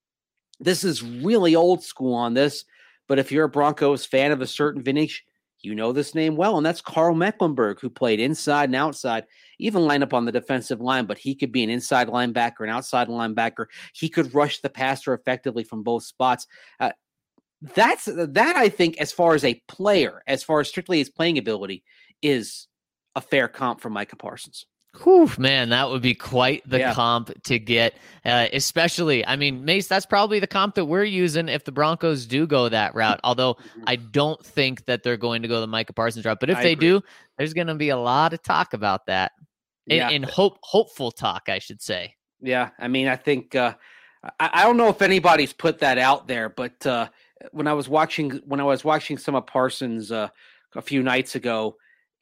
This is really old school on this, but if you're a Broncos fan of a certain vintage, you know this name well, and that's Carl Mecklenburg, who played inside and outside, even line up on the defensive line, but he could be an inside linebacker, an outside linebacker. He could rush the passer effectively from both spots. Uh, that's that, I think, as far as a player, as far as strictly his playing ability, is a fair comp for Micah Parsons. Whew, man, that would be quite the yeah. comp to get, uh, especially, I mean, Mace, that's probably the comp that we're using if the Broncos do go that route, although I don't think that they're going to go the Micah Parsons route, but if I they agree. do, there's going to be a lot of talk about that, in, yeah. in hope, hopeful talk, I should say. Yeah, I mean, I think, uh, I, I don't know if anybody's put that out there, but uh, when I was watching, when I was watching some of Parsons uh, a few nights ago,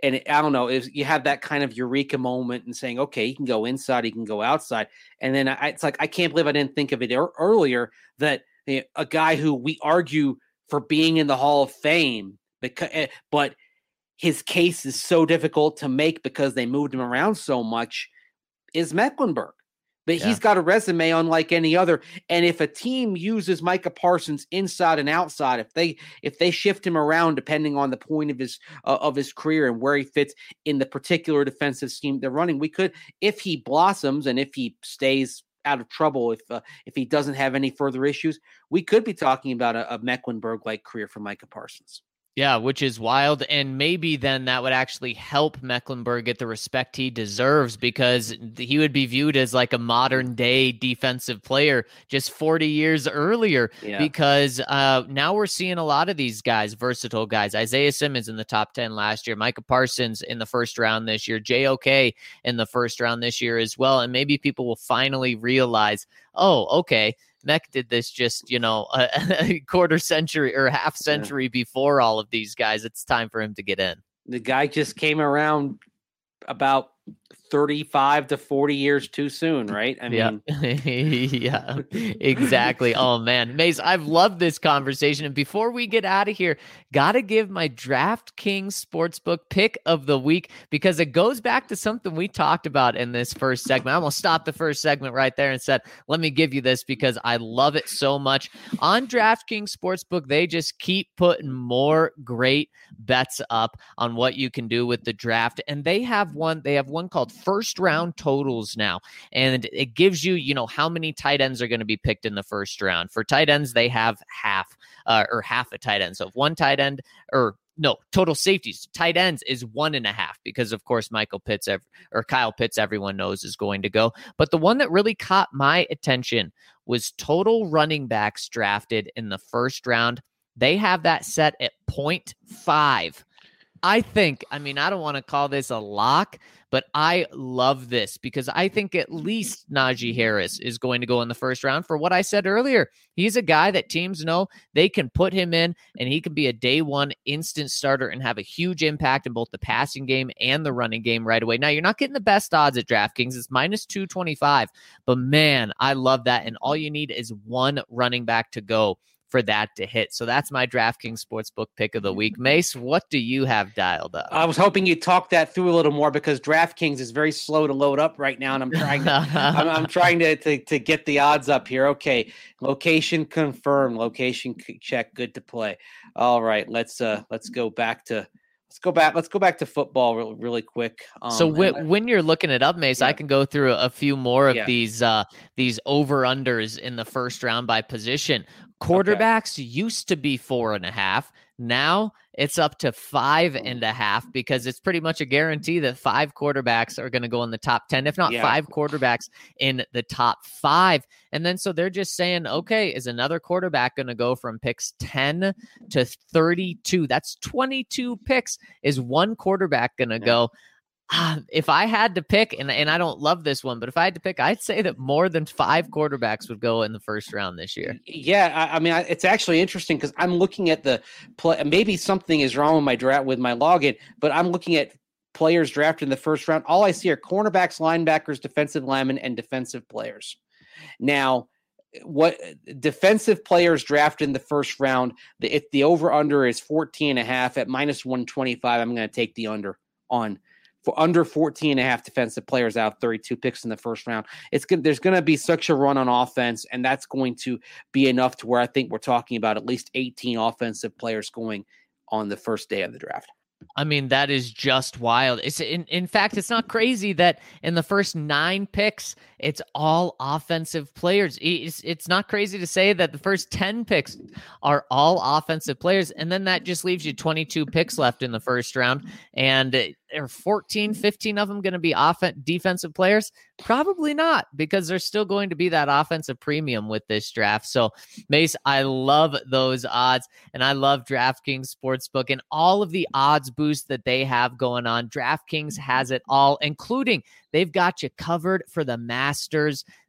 and it, I don't know, if you have that kind of eureka moment and saying, okay, he can go inside, he can go outside. And then I, it's like, I can't believe I didn't think of it er- earlier that you know, a guy who we argue for being in the Hall of Fame, because, but his case is so difficult to make because they moved him around so much, is Mecklenburg. But yeah. he's got a resume unlike any other. And if a team uses Micah Parsons inside and outside, if they if they shift him around depending on the point of his uh, of his career and where he fits in the particular defensive scheme they're running, we could, if he blossoms and if he stays out of trouble, if uh, if he doesn't have any further issues, we could be talking about a, a Mecklenburg-like career for Micah Parsons. Yeah, which is wild. And maybe then that would actually help Mecklenburg get the respect he deserves, because he would be viewed as like a modern day defensive player just forty years earlier. Yeah. Because uh, now we're seeing a lot of these guys, versatile guys. Isaiah Simmons in the top ten last year, Micah Parsons in the first round this year, J O K in the first round this year as well. And maybe people will finally realize, oh, okay, Mech did this just, you know, a, a quarter century or half century yeah. before all of these guys. It's time for him to get in. The guy just came around about thirty-five to forty years too soon, right? I mean, yeah, yeah, exactly. Oh man, Mace, I've loved this conversation. And before we get out of here, got to give my DraftKings Sportsbook pick of the week, because it goes back to something we talked about in this first segment. I'm going to stop the first segment right there and said, let me give you this because I love it so much. On DraftKings Sportsbook, they just keep putting more great bets up on what you can do with the draft. And they have one, they have one called First Round Totals now. And it gives you, you know, how many tight ends are going to be picked in the first round. For tight ends, they have half uh, or half a tight end. So if one tight end or no, total safeties, tight ends is one and a half, because of course, Michael Pitts or Kyle Pitts, everyone knows is going to go. But the one that really caught my attention was total running backs drafted in the first round. They have that set at point five. I think, I mean, I don't want to call this a lock, but I love this because I think at least Najee Harris is going to go in the first round for what I said earlier. He's a guy that teams know they can put him in and he can be a day one instant starter and have a huge impact in both the passing game and the running game right away. Now, you're not getting the best odds at DraftKings. It's minus two twenty-five, but man, I love that. And all you need is one running back to go for that to hit. So that's my DraftKings Sportsbook pick of the week. Mace, what do you have dialed up? I was hoping you'd talk that through a little more because DraftKings is very slow to load up right now, and I'm trying to I'm, I'm trying to, to to get the odds up here. Okay, location confirmed, location check, good to play. All right, let's uh let's go back to Let's go back. Let's go back to football really, really quick. Um, so when, I, when you're looking it up, Mace, yeah. I can go through a few more of yeah. these uh, these over unders in the first round by position. Quarterbacks okay. used to be four and a half. Now it's up to five and a half because it's pretty much a guarantee that five quarterbacks are going to go in the top ten, if not yeah. five quarterbacks in the top five. And then so they're just saying, okay, is another quarterback going to go from picks ten to thirty-two? That's twenty-two picks. Is one quarterback going to yeah. go? Uh, if I had to pick, and, and I don't love this one, but if I had to pick, I'd say that more than five quarterbacks would go in the first round this year. Yeah, I, I mean, I, it's actually interesting because I'm looking at the play. Maybe something is wrong with my draft with my login, but I'm looking at players drafted in the first round. All I see are cornerbacks, linebackers, defensive linemen, and defensive players. Now, what defensive players drafted in the first round, the, if the over under is fourteen and a half at minus one twenty-five, I'm going to take the under on. For under fourteen and a half defensive players out, thirty-two picks in the first round. It's good. There's going to be such a run on offense, and that's going to be enough to where I think we're talking about at least eighteen offensive players going on the first day of the draft. I mean, that is just wild. It's in, in fact, it's not crazy that in the first nine picks, it's all offensive players. It's, it's not crazy to say that the first ten picks are all offensive players. And then that just leaves you twenty-two picks left in the first round. And are fourteen, fifteen of them going to be off- defensive players? Probably not, because there's still going to be that offensive premium with this draft. So, Mace, I love those odds, and I love DraftKings Sportsbook and all of the odds boost that they have going on. DraftKings has it all, including they've got you covered for the Masters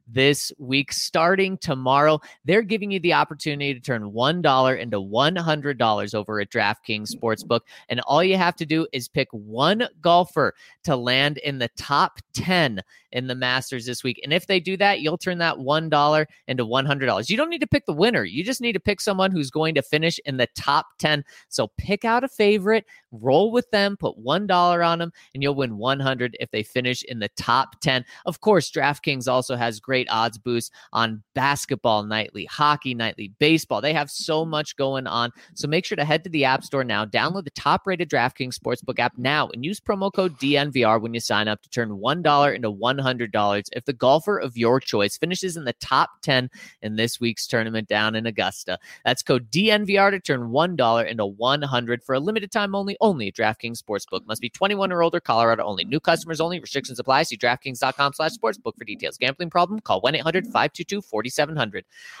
this week. Starting tomorrow, they're giving you the opportunity to turn one dollar into one hundred dollars over at DraftKings Sportsbook. And all you have to do is pick one golfer to land in the top ten in the Masters this week. And if they do that, you'll turn that one dollar into one hundred dollars. You don't need to pick the winner. You just need to pick someone who's going to finish in the top ten. So pick out a favorite, roll with them, put one dollar on them, and you'll win one hundred dollars if they finish in the top ten. Of course, DraftKings also has great odds boosts on basketball nightly, hockey nightly, baseball. They have so much going on. So make sure to head to the App Store now, download the top-rated DraftKings Sportsbook app now, and use promo code D N V R when you sign up to turn one dollar into one hundred dollars if the golfer of your choice finishes in the top ten in this week's tournament down in Augusta. That's code D N V R to turn one dollar into one hundred dollars for a limited time only, only at DraftKings Sportsbook. Must be twenty-one or older, Colorado only. New customers only. Restrictions apply. See DraftKings.com slash sportsbook for details. Gambling problem? Call one eight hundred five two two four seven zero zero.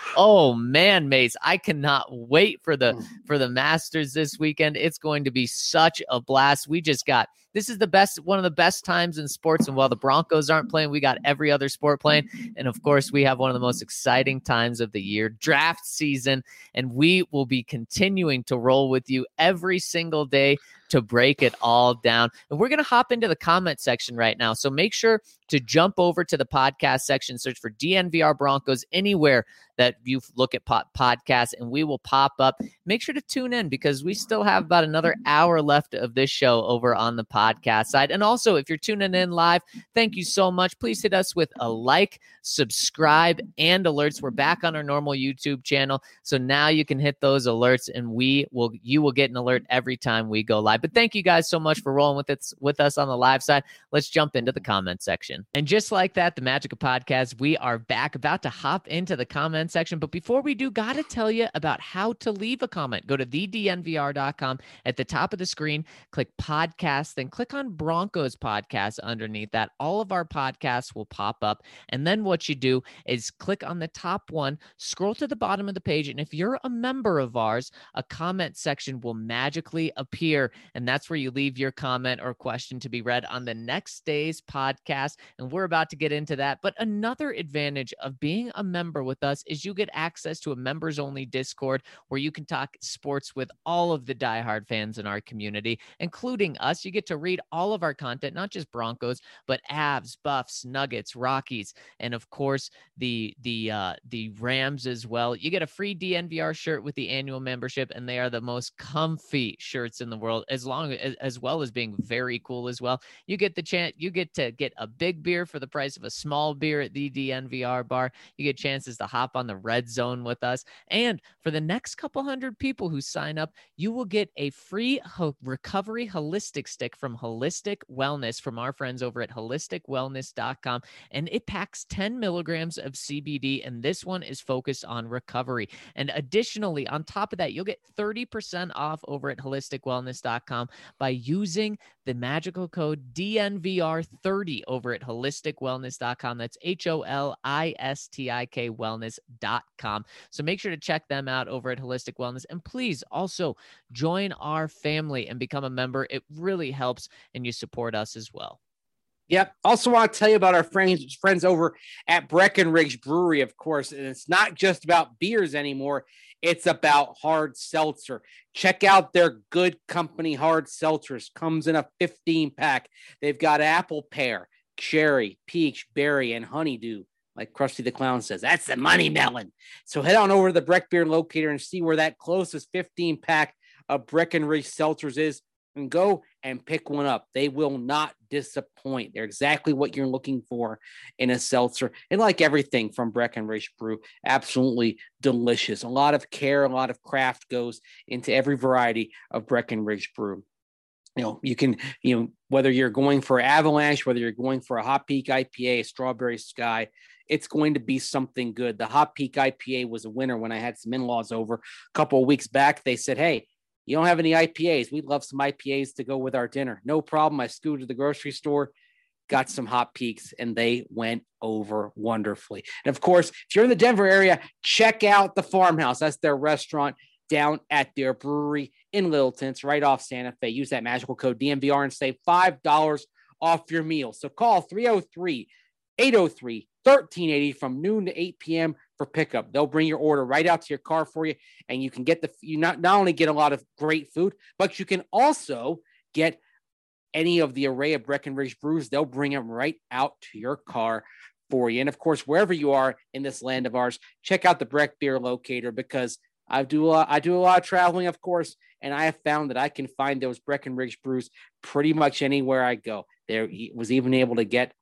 Oh man, Mace, I cannot wait for the for the Masters this weekend. It's going to be such a blast. We just got This is the best, one of the best times in sports. And while the Broncos aren't playing, we got every other sport playing. And of course, we have one of the most exciting times of the year, draft season. And we will be continuing to roll with you every single day to break it all down. And we're going to hop into the comment section right now. So make sure to jump over to the podcast section, search for D N V R Broncos anywhere that you look at po- podcasts, and we will pop up. Make sure to tune in because we still have about another hour left of this show over on the podcast side. And also, if you're tuning in live, thank you so much. Please hit us with a like, subscribe, and alerts. We're back on our normal YouTube channel, so now you can hit those alerts, and we will you will get an alert every time we go live. But thank you guys so much for rolling with it with us on the live side. Let's jump into the comment section. And just like that, the magic of podcasts, we are back, about to hop into the comment section. But before we do, got to tell you about how to leave a comment. Go to the D N V R dot com. At the top of the screen, click podcast, then click on Broncos podcast underneath that. All of our podcasts will pop up. And then what you do is click on the top one, scroll to the bottom of the page. And if you're a member of ours, a comment section will magically appear. And that's where you leave your comment or question to be read on the next day's podcast. And we're about to get into that. But another advantage of being a member with us is you get access to a members only Discord where you can talk sports with all of the diehard fans in our community, including us. You get to read all of our content, not just Broncos, but Avs, Buffs, Nuggets, Rockies, and of course the the uh, the Rams as well. You get a free D N V R shirt with the annual membership, and they are the most comfy shirts in the world, as long as as well as being very cool as well. You get the chance, you get to get a big beer for the price of a small beer at the D N V R bar. You get chances to hop on the red zone with us. And for the next couple hundred people who sign up, you will get a free ho- recovery holistic stick from Holistic Wellness from our friends over at holistic wellness dot com. And it packs ten milligrams of C B D. And this one is focused on recovery. And additionally, on top of that, you'll get thirty percent off over at holistic wellness dot com by using the magical code D N V R thirty over at holistic wellness dot com. That's H O L I S T I K wellness dot com. So make sure to check them out over at Holistic Wellness. And please also join our family and become a member. It really helps, and you support us as well. Yep. Also want to tell you about our friends friends over at Breckenridge Brewery, of course. And it's not just about beers anymore. It's about hard seltzer. Check out their Good Company hard seltzers. Comes in a fifteen pack. They've got apple pear, cherry, peach, berry, and honeydew. Like Krusty the Clown says, that's the money melon. So head on over to the Breck Beer Locator and see where that closest fifteen pack of Breckenridge seltzers is, and go and pick one up. They will not disappoint. They're exactly what you're looking for in a seltzer. And like everything from Breckenridge Brew, absolutely delicious. A lot of care, a lot of craft goes into every variety of Breckenridge Brew. You know, you can, you know, whether you're going for Avalanche, whether you're going for a Hot Peak I P A, a Strawberry Sky, it's going to be something good. The Hot Peak I P A was a winner when I had some in-laws over a couple of weeks back. They said, hey, you don't have any I P As. We'd love some I P As to go with our dinner. No problem. I scooted to the grocery store, got some Hot Peaks, and they went over wonderfully. And of course, if you're in the Denver area, check out the Farmhouse. That's their restaurant down at their brewery in Littleton. It's right off Santa Fe. Use that magical code D N V R and save five dollars off your meal. So call three oh three, eight oh three, thirteen eighty from noon to eight p.m. for pickup. They'll bring your order right out to your car for you, and you can get the you not, not only get a lot of great food, but you can also get any of the array of Breckenridge brews. They'll bring them right out to your car for you. And of course, wherever you are in this land of ours, check out the Breck Beer Locator, because I do a lot, I do a lot of traveling, of course, and I have found that I can find those Breckenridge brews pretty much anywhere I go. There was even able to get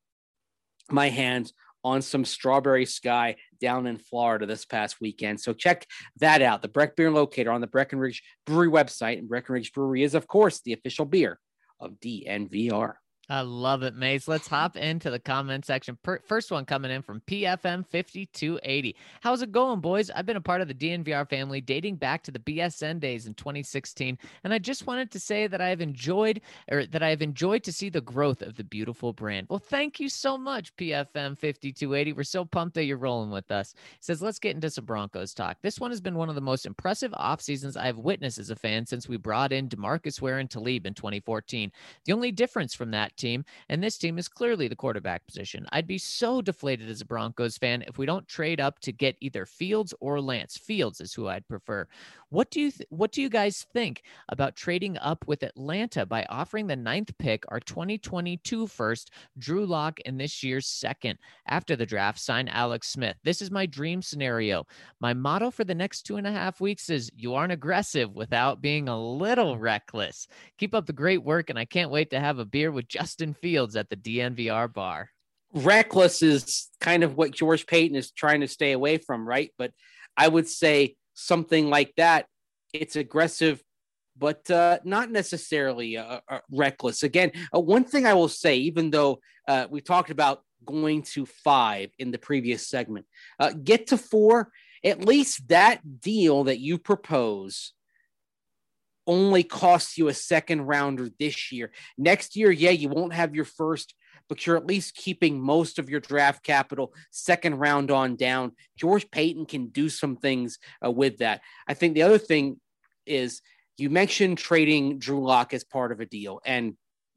my hands on some Strawberry Sky down in Florida this past weekend. So check that out. The Breck Beer Locator on the Breckenridge Brewery website. And Breckenridge Brewery is, of course, the official beer of D N V R. I love it, Mace. Let's hop into the comment section. Per- first one coming in from P F M fifty-two eighty. How's it going, boys? I've been a part of the D N V R family dating back to the B S N days in twenty sixteen, and I just wanted to say that I have enjoyed, or that I have enjoyed to see the growth of the beautiful brand. Well, thank you so much, P F M fifty-two eighty. We're so pumped that you're rolling with us. It says, let's get into some Broncos talk. This one has been one of the most impressive off seasons I've witnessed as a fan since we brought in DeMarcus Ware and Talib in twenty fourteen. The only difference from that team and this team is clearly the quarterback position. I'd be so deflated as a Broncos fan if we don't trade up to get either Fields or Lance. Fields is who I'd prefer. What do you th- what do you guys think about trading up with Atlanta by offering the ninth pick, our twenty twenty-two first, Drew Lock, and this year's second? After the draft, sign Alex Smith. This is my dream scenario. My motto for the next two and a half weeks is you aren't aggressive without being a little reckless. Keep up the great work, and I can't wait to have a beer with Justin Fields at the D N V R bar. Reckless is kind of what George Paton is trying to stay away from, right? But I would say something like that, it's aggressive, but uh, not necessarily uh, uh, reckless. Again, uh, one thing I will say, even though uh, we talked about going to five in the previous segment, uh, get to four, at least that deal that you propose only costs you a second rounder this year. Next year, yeah, you won't have your first, but you're at least keeping most of your draft capital second round on down. George Paton can do some things uh, with that. I think the other thing is you mentioned trading Drew Lock as part of a deal. And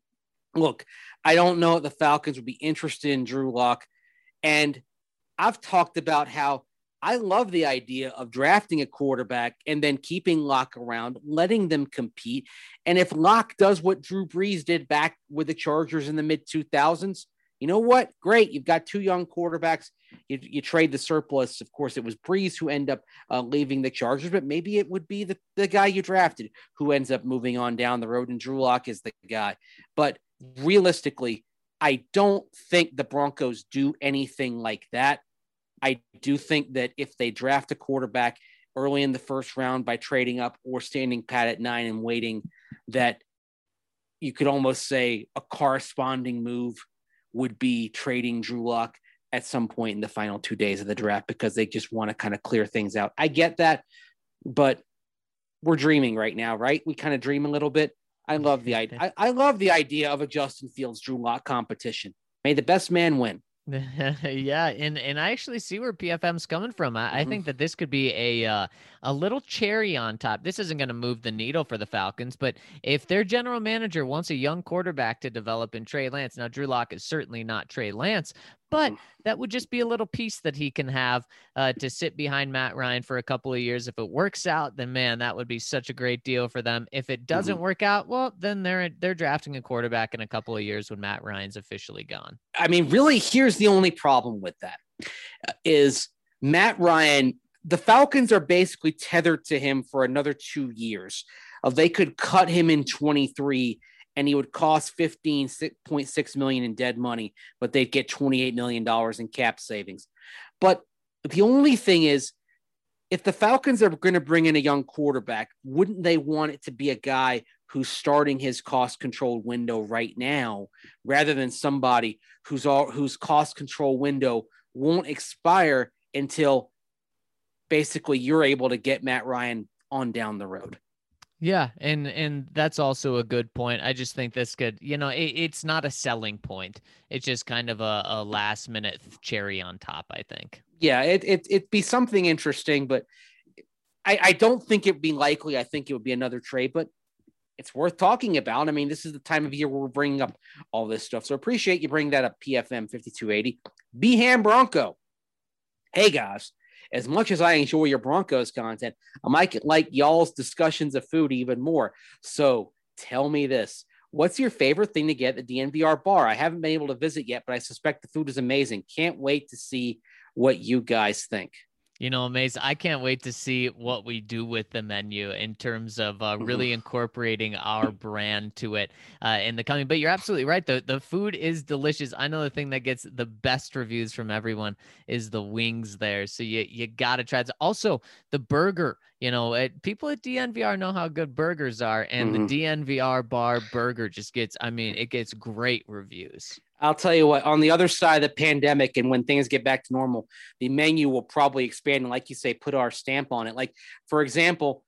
look, I don't know if the Falcons would be interested in Drew Lock. And I've talked about how I love the idea of drafting a quarterback and then keeping Lock around, letting them compete. And if Lock does what Drew Brees did back with the Chargers in the mid two thousands, you know what? Great. You've got two young quarterbacks. You, you trade the surplus. Of course, it was Brees who ended up uh, leaving the Chargers, but maybe it would be the, the guy you drafted who ends up moving on down the road, and Drew Lock is the guy. But realistically, I don't think the Broncos do anything like that. I do think that if they draft a quarterback early in the first round by trading up or standing pat at nine and waiting, that you could almost say a corresponding move would be trading Drew Lock at some point in the final two days of the draft, because they just want to kind of clear things out. I get that, but we're dreaming right now, right? We kind of dream a little bit. I love the idea. I, I love the idea of a Justin Fields Drew Lock competition. May the best man win. Yeah, and and I actually see where P F M's coming from. I, mm-hmm. I think that this could be a uh, a little cherry on top. This isn't going to move the needle for the Falcons, but if their general manager wants a young quarterback to develop in Trey Lance, now Drew Lock is certainly not Trey Lance, but that would just be a little piece that he can have uh, to sit behind Matt Ryan for a couple of years. If it works out, then man, that would be such a great deal for them. If it doesn't mm-hmm. work out, well, then they're they're drafting a quarterback in a couple of years when Matt Ryan's officially gone. I mean, really, here's the only problem with that uh, is Matt Ryan. The Falcons are basically tethered to him for another two years. Uh, they could cut him in twenty-three. And he would cost fifteen point six million dollars in dead money, but they'd get twenty-eight million dollars in cap savings. But the only thing is, if the Falcons are going to bring in a young quarterback, wouldn't they want it to be a guy who's starting his cost control window right now, rather than somebody who's all, whose cost control window won't expire until basically you're able to get Matt Ryan on down the road? Yeah, and and that's also a good point. I just think this could, you know, it, it's not a selling point. It's just kind of a, a last minute cherry on top, I think. Yeah, it, it, it'd be something interesting, but I, I don't think it'd be likely. I think it would be another trade, but it's worth talking about. I mean, this is the time of year where we're bringing up all this stuff. So appreciate you bringing that up, P F M fifty-two eighty. Beham Bronco. Hey guys, as much as I enjoy your Broncos content, I might like y'all's discussions of food even more. So tell me this. What's your favorite thing to get at the D N V R bar? I haven't been able to visit yet, but I suspect the food is amazing. Can't wait to see what you guys think. You know, Mace, I can't wait to see what we do with the menu in terms of uh, really incorporating our brand to it uh, in the coming. But you're absolutely right. The, the food is delicious. I know the thing that gets the best reviews from everyone is the wings there. So you, you got to try it. Also, the burger. You know, it, people at D N V R know how good burgers are, and mm-hmm. the D N V R bar burger just gets, I mean, it gets great reviews. I'll tell you what, on the other side of the pandemic and when things get back to normal, the menu will probably expand and, like you say, put our stamp on it. Like, for example,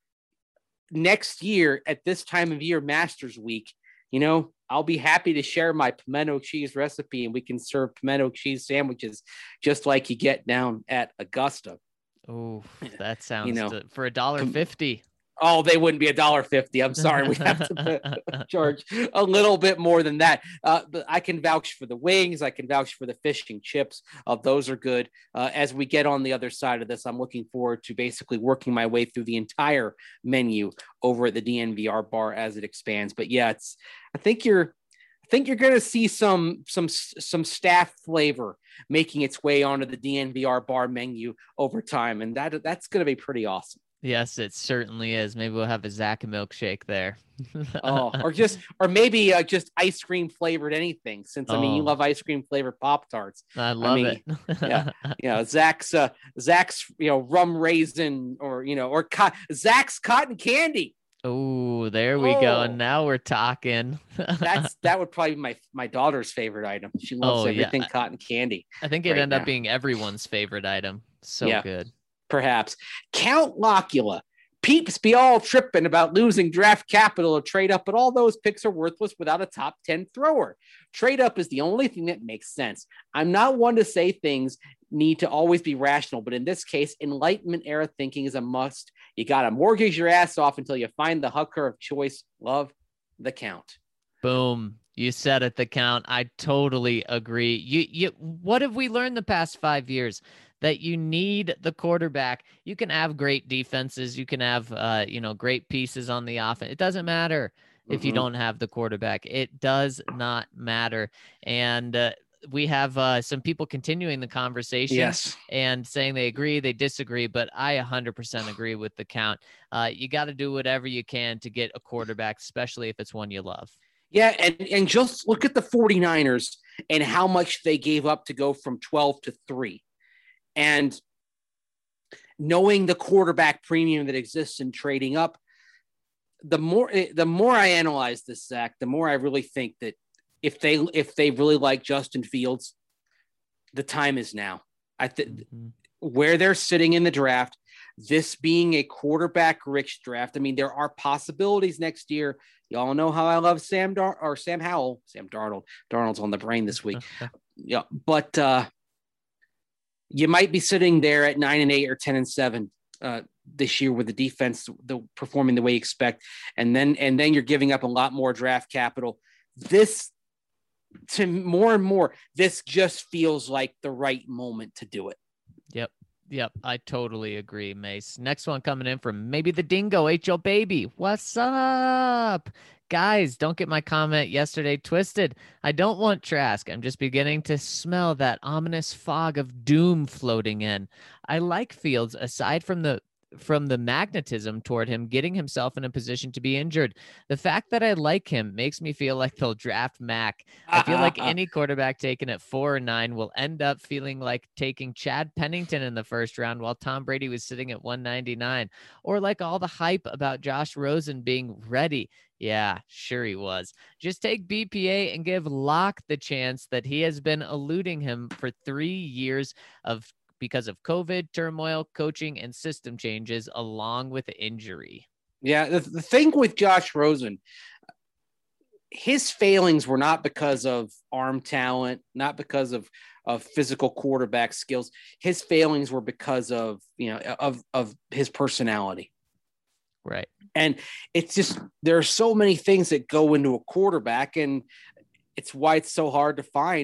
next year at this time of year, Masters Week, you know, I'll be happy to share my pimento cheese recipe and we can serve pimento cheese sandwiches just like you get down at Augusta. Oh, that sounds, you know, to, for a dollar fifty. Oh, they wouldn't be a dollar fifty. I'm sorry. We have to charge a little bit more than that. Uh, but I can vouch for the wings. I can vouch for the fish and chips. Uh, those are good. Uh, as we get on the other side of this, I'm looking forward to basically working my way through the entire menu over at the D N V R bar as it expands. But yeah, it's, I think you're, I think you're going to see some, some, some staff flavor making its way onto the D N V R bar menu over time. And that, that's going to be pretty awesome. Yes, it certainly is. Maybe we'll have a Zach milkshake there. oh, or just, or maybe uh, just ice cream flavored anything. Since I mean, oh. you love ice cream flavored Pop-Tarts. I love I mean, it. yeah, yeah. Zach's, uh, Zach's, you know, rum raisin, or you know, or co- Zach's cotton candy. Oh, there we oh. go. And now we're talking. That's that would probably be my my daughter's favorite item. She loves oh, everything yeah. cotton candy. I think it right ended up being everyone's favorite item. So yeah. good. Perhaps. Count Locula. Peeps be all tripping about losing draft capital or trade up, but all those picks are worthless without a top ten thrower. Trade up is the only thing that makes sense. I'm not one to say things need to always be rational, but in this case, Enlightenment era thinking is a must. You got to mortgage your ass off until you find the hooker of choice. Love the Count. Boom. You said it, the Count. I totally agree. You, you, what have we learned the past five years? That you need the quarterback. You can have great defenses. You can have, uh, you know, great pieces on the offense. It doesn't matter mm-hmm. if you don't have the quarterback. It does not matter. And uh, we have uh, some people continuing the conversation yes. and saying they agree, they disagree, but I one hundred percent agree with the Count. Uh, you got to do whatever you can to get a quarterback, especially if it's one you love. Yeah, and, and just look at the 49ers and how much they gave up to go from twelve to three. And knowing the quarterback premium that exists in trading up, the more the more I analyze this, Zach, the more I really think that if they if they really like Justin Fields, the time is now. I think mm-hmm. where they're sitting in the draft, this being a quarterback-rich draft. I mean, there are possibilities next year. Y'all know how I love Sam Dar- or Sam Howell, Sam Darnold. Darnold's on the brain this week. yeah, but. Uh, You might be sitting there at nine and eight or ten and seven uh, this year with the defense the, performing the way you expect, and then and then you're giving up a lot more draft capital. This, to more and more, this just feels like the right moment to do it. Yep, yep, I totally agree, Mace. Next one coming in from maybe the Dingo H O Baby. What's up? Guys, don't get my comment yesterday twisted. I don't want Trask. I'm just beginning to smell that ominous fog of doom floating in. I like Fields, aside from the from the magnetism toward him getting himself in a position to be injured. The fact that I like him makes me feel like they'll draft Mac. I feel like any quarterback taken at four or nine will end up feeling like taking Chad Pennington in the first round while Tom Brady was sitting at one ninety-nine, or like all the hype about Josh Rosen being ready. Yeah, sure he was. Just take B P A and give Locke the chance that he has been eluding him for three years of because of COVID, turmoil, coaching, and system changes, along with injury. Yeah, the, the thing with Josh Rosen, his failings were not because of arm talent, not because of, of physical quarterback skills. His failings were because of, you know, of, of his personality. Right. And it's just, there are so many things that go into a quarterback, and it's why it's so hard to find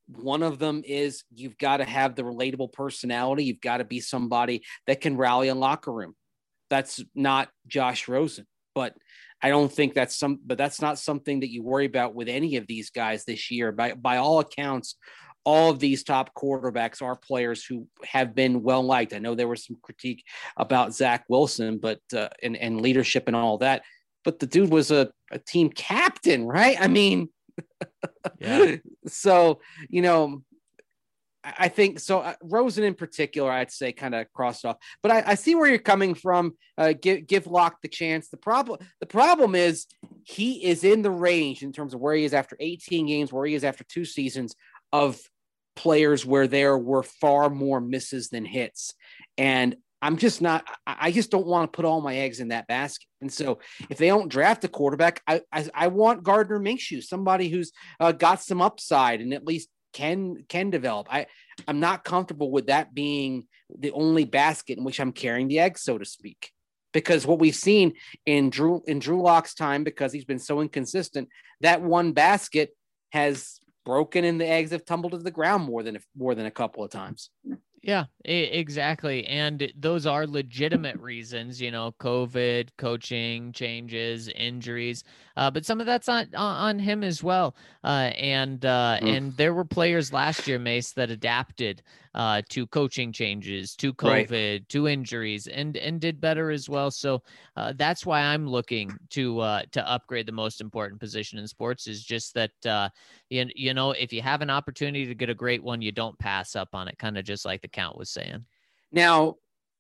One of them is you've got to have the relatable personality. You've got to be somebody that can rally a locker room. That's not Josh Rosen, but I don't think that's some, but that's not something that you worry about with any of these guys this year. By, by all accounts, all of these top quarterbacks are players who have been well liked. I know there was some critique about Zach Wilson, but uh, and, and leadership and all that, but the dude was a, a team captain, right? I mean, yeah. So, you know, I think so. Uh, Rosen in particular, I'd say kind of crossed off, but I, I see where you're coming from. Uh, give, give Locke the chance. The problem, the problem is he is in the range in terms of where he is after eighteen games, where he is after two seasons of players where there were far more misses than hits. And I'm just not, I just don't want to put all my eggs in that basket. And so if they don't draft a quarterback, I, I, I want Gardner Minshew, somebody who's uh, got some upside and at least can, can develop. I, I'm not comfortable with that being the only basket in which I'm carrying the eggs, so to speak, because what we've seen in Drew, in Drew Lock's time, because he's been so inconsistent, that one basket has broken and the eggs have tumbled to the ground more than, more than a couple of times. Yeah, exactly. And those are legitimate reasons, you know, COVID, coaching changes, injuries, uh, but some of that's on, on him as well. Uh, and, uh, mm. and there were players last year, Mace, that adapted uh, to coaching changes, to COVID, right. to injuries, and, and did better as well. So uh, that's why I'm looking to, uh, to upgrade the most important position in sports, is just that, uh, you, you know, if you have an opportunity to get a great one, you don't pass up on it, kind of just like the count was saying. Now,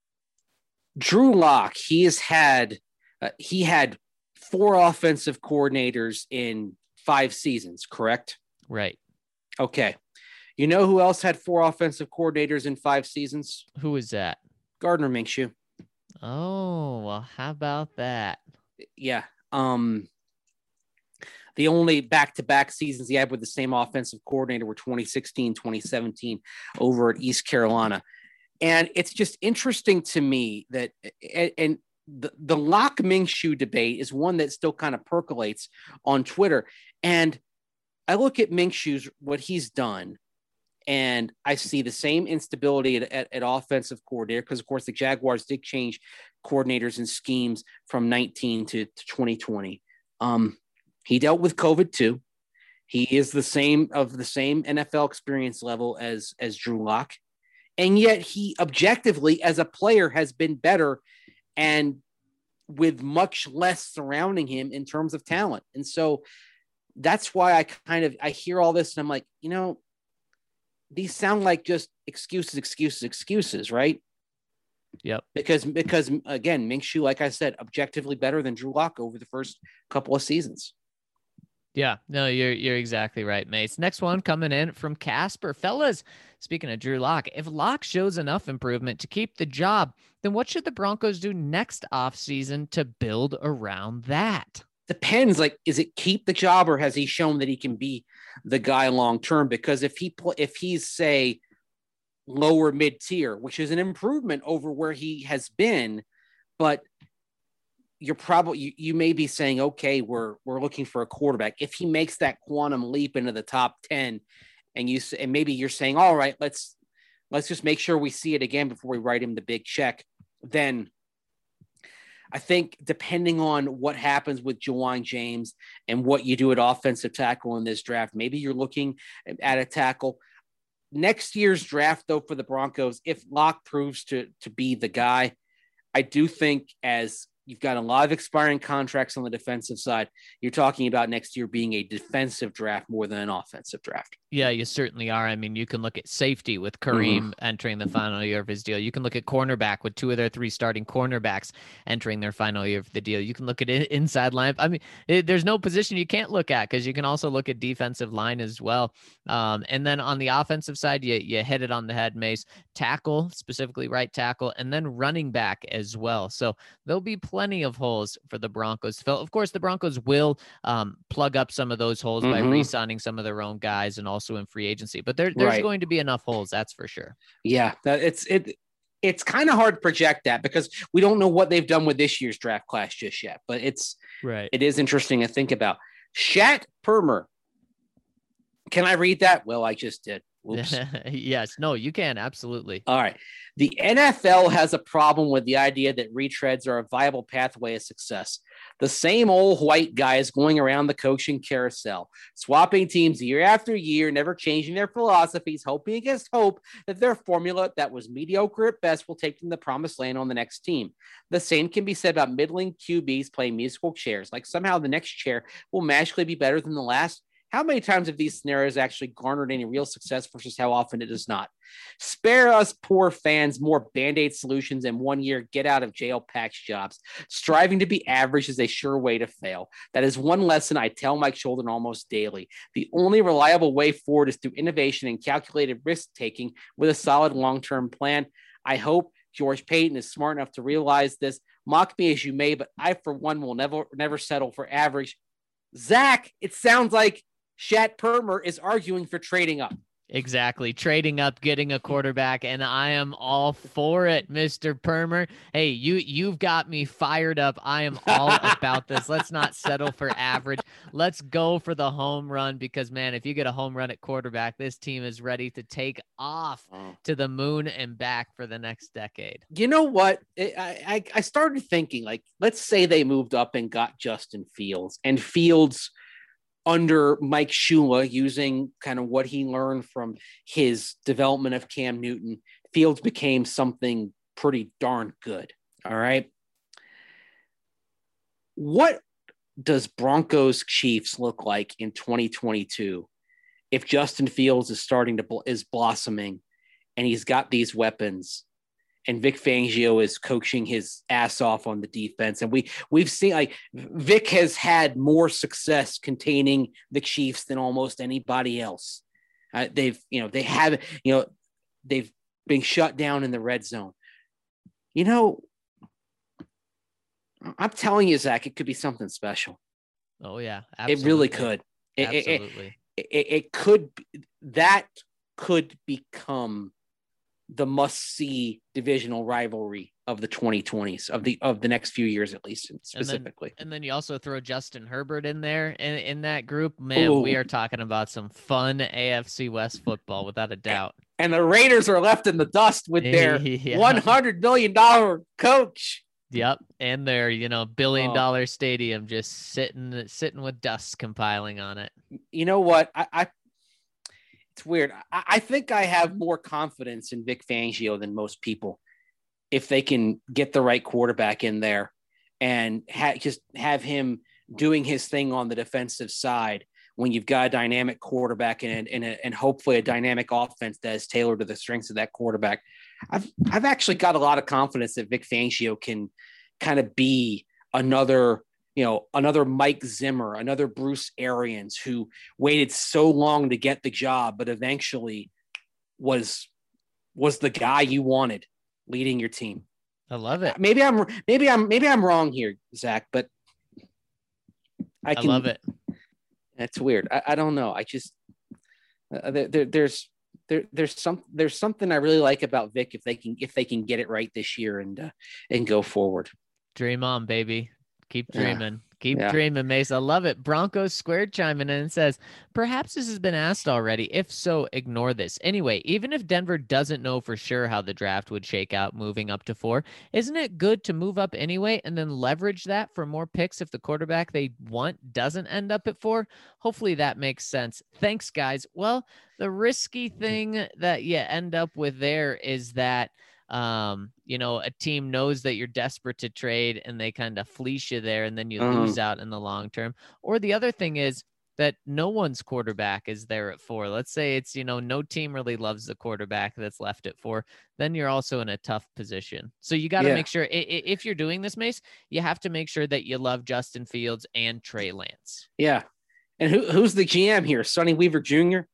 Drew Lock, he has had, uh, he had four offensive coordinators in five seasons, correct? Right. Okay. You know who else had four offensive coordinators in five seasons? Who is that? Gardner Minshew. Oh, well, how about that? Yeah. Um, the only back-to-back seasons he had with the same offensive coordinator were twenty sixteen, twenty seventeen over at East Carolina. And it's just interesting to me that, and the, the Lock Minshew debate is one that still kind of percolates on Twitter. And I look at Minshew's, what he's done, and I see the same instability at, at, at offensive coordinator, because, of course, the Jaguars did change coordinators and schemes from nineteen to, to twenty twenty. Um, he dealt with COVID too. He is the same of the same N F L experience level as, as Drew Lock. And yet he objectively as a player has been better and with much less surrounding him in terms of talent. And so that's why I kind of, I hear all this and I'm like, you know, these sound like just excuses, excuses, excuses, right? Yep. Because, because again, Minshew, like I said, objectively better than Drew Lock over the first couple of seasons. Yeah, no, you're you're exactly right, Mace. Next one coming in from Casper. Fellas, speaking of Drew Lock, if Lock shows enough improvement to keep the job, then what should the Broncos do next offseason to build around that? Depends. Like, is it keep the job, or has he shown that he can be the guy long term? Because if he pl- if he's say lower mid tier, which is an improvement over where he has been, but you're probably, you, you may be saying, okay, we're, we're looking for a quarterback. If he makes that quantum leap into the top ten and you say, and maybe you're saying, all right, let's, let's just make sure we see it again before we write him the big check. Then I think depending on what happens with Ja'Wuan James and what you do at offensive tackle in this draft, maybe you're looking at a tackle. Next year's draft, though, for the Broncos, if Locke proves to, to be the guy, I do think, as you've got a lot of expiring contracts on the defensive side, you're talking about next year being a defensive draft more than an offensive draft. Yeah, you certainly are. I mean, you can look at safety with Kareem mm-hmm. entering the final year of his deal. You can look at cornerback with two of their three starting cornerbacks entering their final year of the deal. You can look at inside line. I mean, it, there's no position you can't look at, because you can also look at defensive line as well. Um, and then on the offensive side, you, you hit it on the head, Mace. Tackle, specifically right tackle, and then running back as well. So there'll be plenty of holes for the Broncos to fill. Of course, the Broncos will um, plug up some of those holes mm-hmm. by re-signing some of their own guys and also in free agency, but there, there's right. going to be enough holes, that's for sure. Yeah, it's it. It's kind of hard to project that, because we don't know what they've done with this year's draft class just yet. But it's right. It is interesting to think about. Shat Permer, can I read that? Well, I just did. Oops. Yes. No, you can. Absolutely. All right. The N F L has a problem with the idea that retreads are a viable pathway of success. The same old white guys going around the coaching carousel, swapping teams year after year, never changing their philosophies, hoping against hope that their formula that was mediocre at best will take them to the promised land on the next team. The same can be said about middling Q Bs playing musical chairs, like somehow the next chair will magically be better than the last. How many times have these scenarios actually garnered any real success versus how often it does not? Spare us poor fans more Band-Aid solutions and one-year get-out-of-jail patch jobs. Striving to be average is a sure way to fail. That is one lesson I tell my children almost daily. The only reliable way forward is through innovation and calculated risk-taking with a solid long-term plan. I hope George Paton is smart enough to realize this. Mock me as you may, but I, for one, will never, never settle for average. Zach, it sounds like Shat Permer is arguing for trading up. Exactly. Trading up, getting a quarterback, and I am all for it, Mister Permer. Hey, you, you've got me fired up. I am all about this. Let's not settle for average. Let's go for the home run because, man, if you get a home run at quarterback, this team is ready to take off to the moon and back for the next decade. You know what? I, I, I started thinking, like, let's say they moved up and got Justin Fields, and Fields – under Mike Shula, using kind of what he learned from his development of Cam Newton, Fields became something pretty darn good. All right. What does Broncos Chiefs look like in twenty twenty-two if Justin Fields is starting to is blossoming and he's got these weapons and Vic Fangio is coaching his ass off on the defense? And we, we've seen, like, Vic has had more success containing the Chiefs than almost anybody else. Uh, they've, you know, they have, you know, they've been shut down in the red zone. You know, I'm telling you, Zach, it could be something special. Oh, yeah. Absolutely. It really could. It, absolutely. It, it, it could, that could become the must-see divisional rivalry of the twenty twenties, of the of the next few years, at least specifically. And then, and then you also throw Justin Herbert in there in, in that group. Man, Ooh. We are talking about some fun A F C West football, without a doubt. And the Raiders are left in the dust with their yeah. one hundred million dollars coach. Yep, and their, you know, billion dollar oh. stadium just sitting sitting with dust compiling on it. You know what? I. I It's weird. I, I think I have more confidence in Vic Fangio than most people if they can get the right quarterback in there and ha- just have him doing his thing on the defensive side when you've got a dynamic quarterback and, and, a, and hopefully a dynamic offense that is tailored to the strengths of that quarterback. I've, I've actually got a lot of confidence that Vic Fangio can kind of be another – you know, another Mike Zimmer, another Bruce Arians, who waited so long to get the job, but eventually was was the guy you wanted leading your team. I love it. Maybe I'm maybe I'm maybe I'm wrong here, Zach, but I can I love it. That's weird. I, I don't know. I just uh, there, there there's there there's some there's something I really like about Vic if they can if they can get it right this year and uh, and go forward. Dream on, baby. Keep dreaming. Yeah. Keep yeah. dreaming, Mace. I love it. Broncos Squared chiming in and says, perhaps this has been asked already. If so, ignore this. Anyway, even if Denver doesn't know for sure how the draft would shake out moving up to four, isn't it good to move up anyway and then leverage that for more picks if the quarterback they want doesn't end up at four? Hopefully that makes sense. Thanks, guys. Well, the risky thing that you end up with there is that um you know a team knows that you're desperate to trade and they kind of fleece you there and then you uh-huh. lose out in the long term. Or the other thing is that no one's quarterback is there at four. Let's say it's, you know, no team really loves the quarterback that's left at four. Then you're also in a tough position. So you got to yeah. make sure if you're doing this, Mace, you have to make sure that you love Justin Fields and Trey Lance. Yeah. And who who's the G M here? Sonny Weaver Junior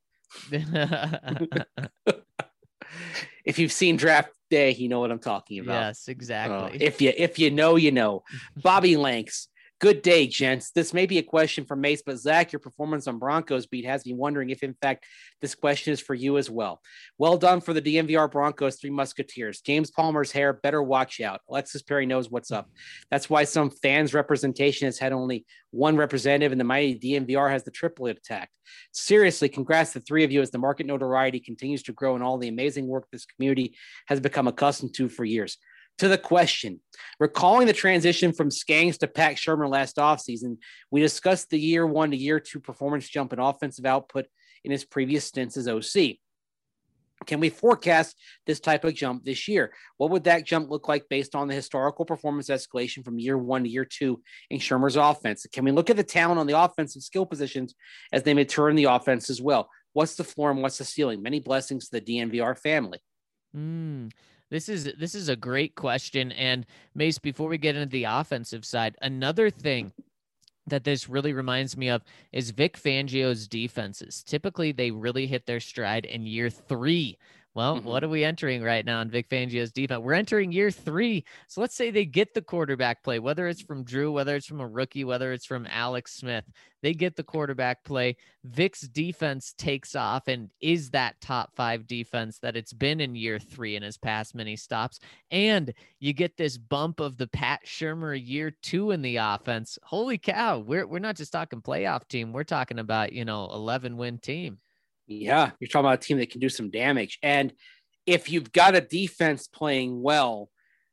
If you've seen Draft Day, you know what I'm talking about. Yes, exactly. Uh, if you if you know, you know. Bobby Lanks, Good day, gents. This may be a question for Mace, but Zach, your performance on Broncos beat has me wondering if, in fact, this question is for you as well. Well done for the D N V R Broncos Three Musketeers. James Palmer's hair better watch out. Alexis Perry knows what's up. That's why some fans' representation has had only one representative, and the mighty D N V R has the triplet attack. Seriously, congrats to the three of you as the market notoriety continues to grow and all the amazing work this community has become accustomed to for years. To the question, recalling the transition from Skanks to Pat Shermer last offseason, we discussed the year one to year two performance jump in offensive output in his previous stints as O C. Can we forecast this type of jump this year? What would that jump look like based on the historical performance escalation from year one to year two in Shermer's offense? Can we look at the talent on the offensive skill positions as they mature in the offense as well? What's the floor and what's the ceiling? Many blessings to the D N V R family. Hmm. This is this is a great question. And Mace, before we get into the offensive side, another thing that this really reminds me of is Vic Fangio's defenses. Typically, they really hit their stride in year three. Well, mm-hmm. What are we entering right now in Vic Fangio's defense? We're entering year three. So let's say they get the quarterback play, whether it's from Drew, whether it's from a rookie, whether it's from Alex Smith, they get the quarterback play. Vic's defense takes off and is that top five defense that it's been in year three in his past many stops. And you get this bump of the Pat Shermer year two in the offense. Holy cow. We're, we're not just talking playoff team. We're talking about, you know, eleven win team. Yeah, you're talking about a team that can do some damage. And if you've got a defense playing well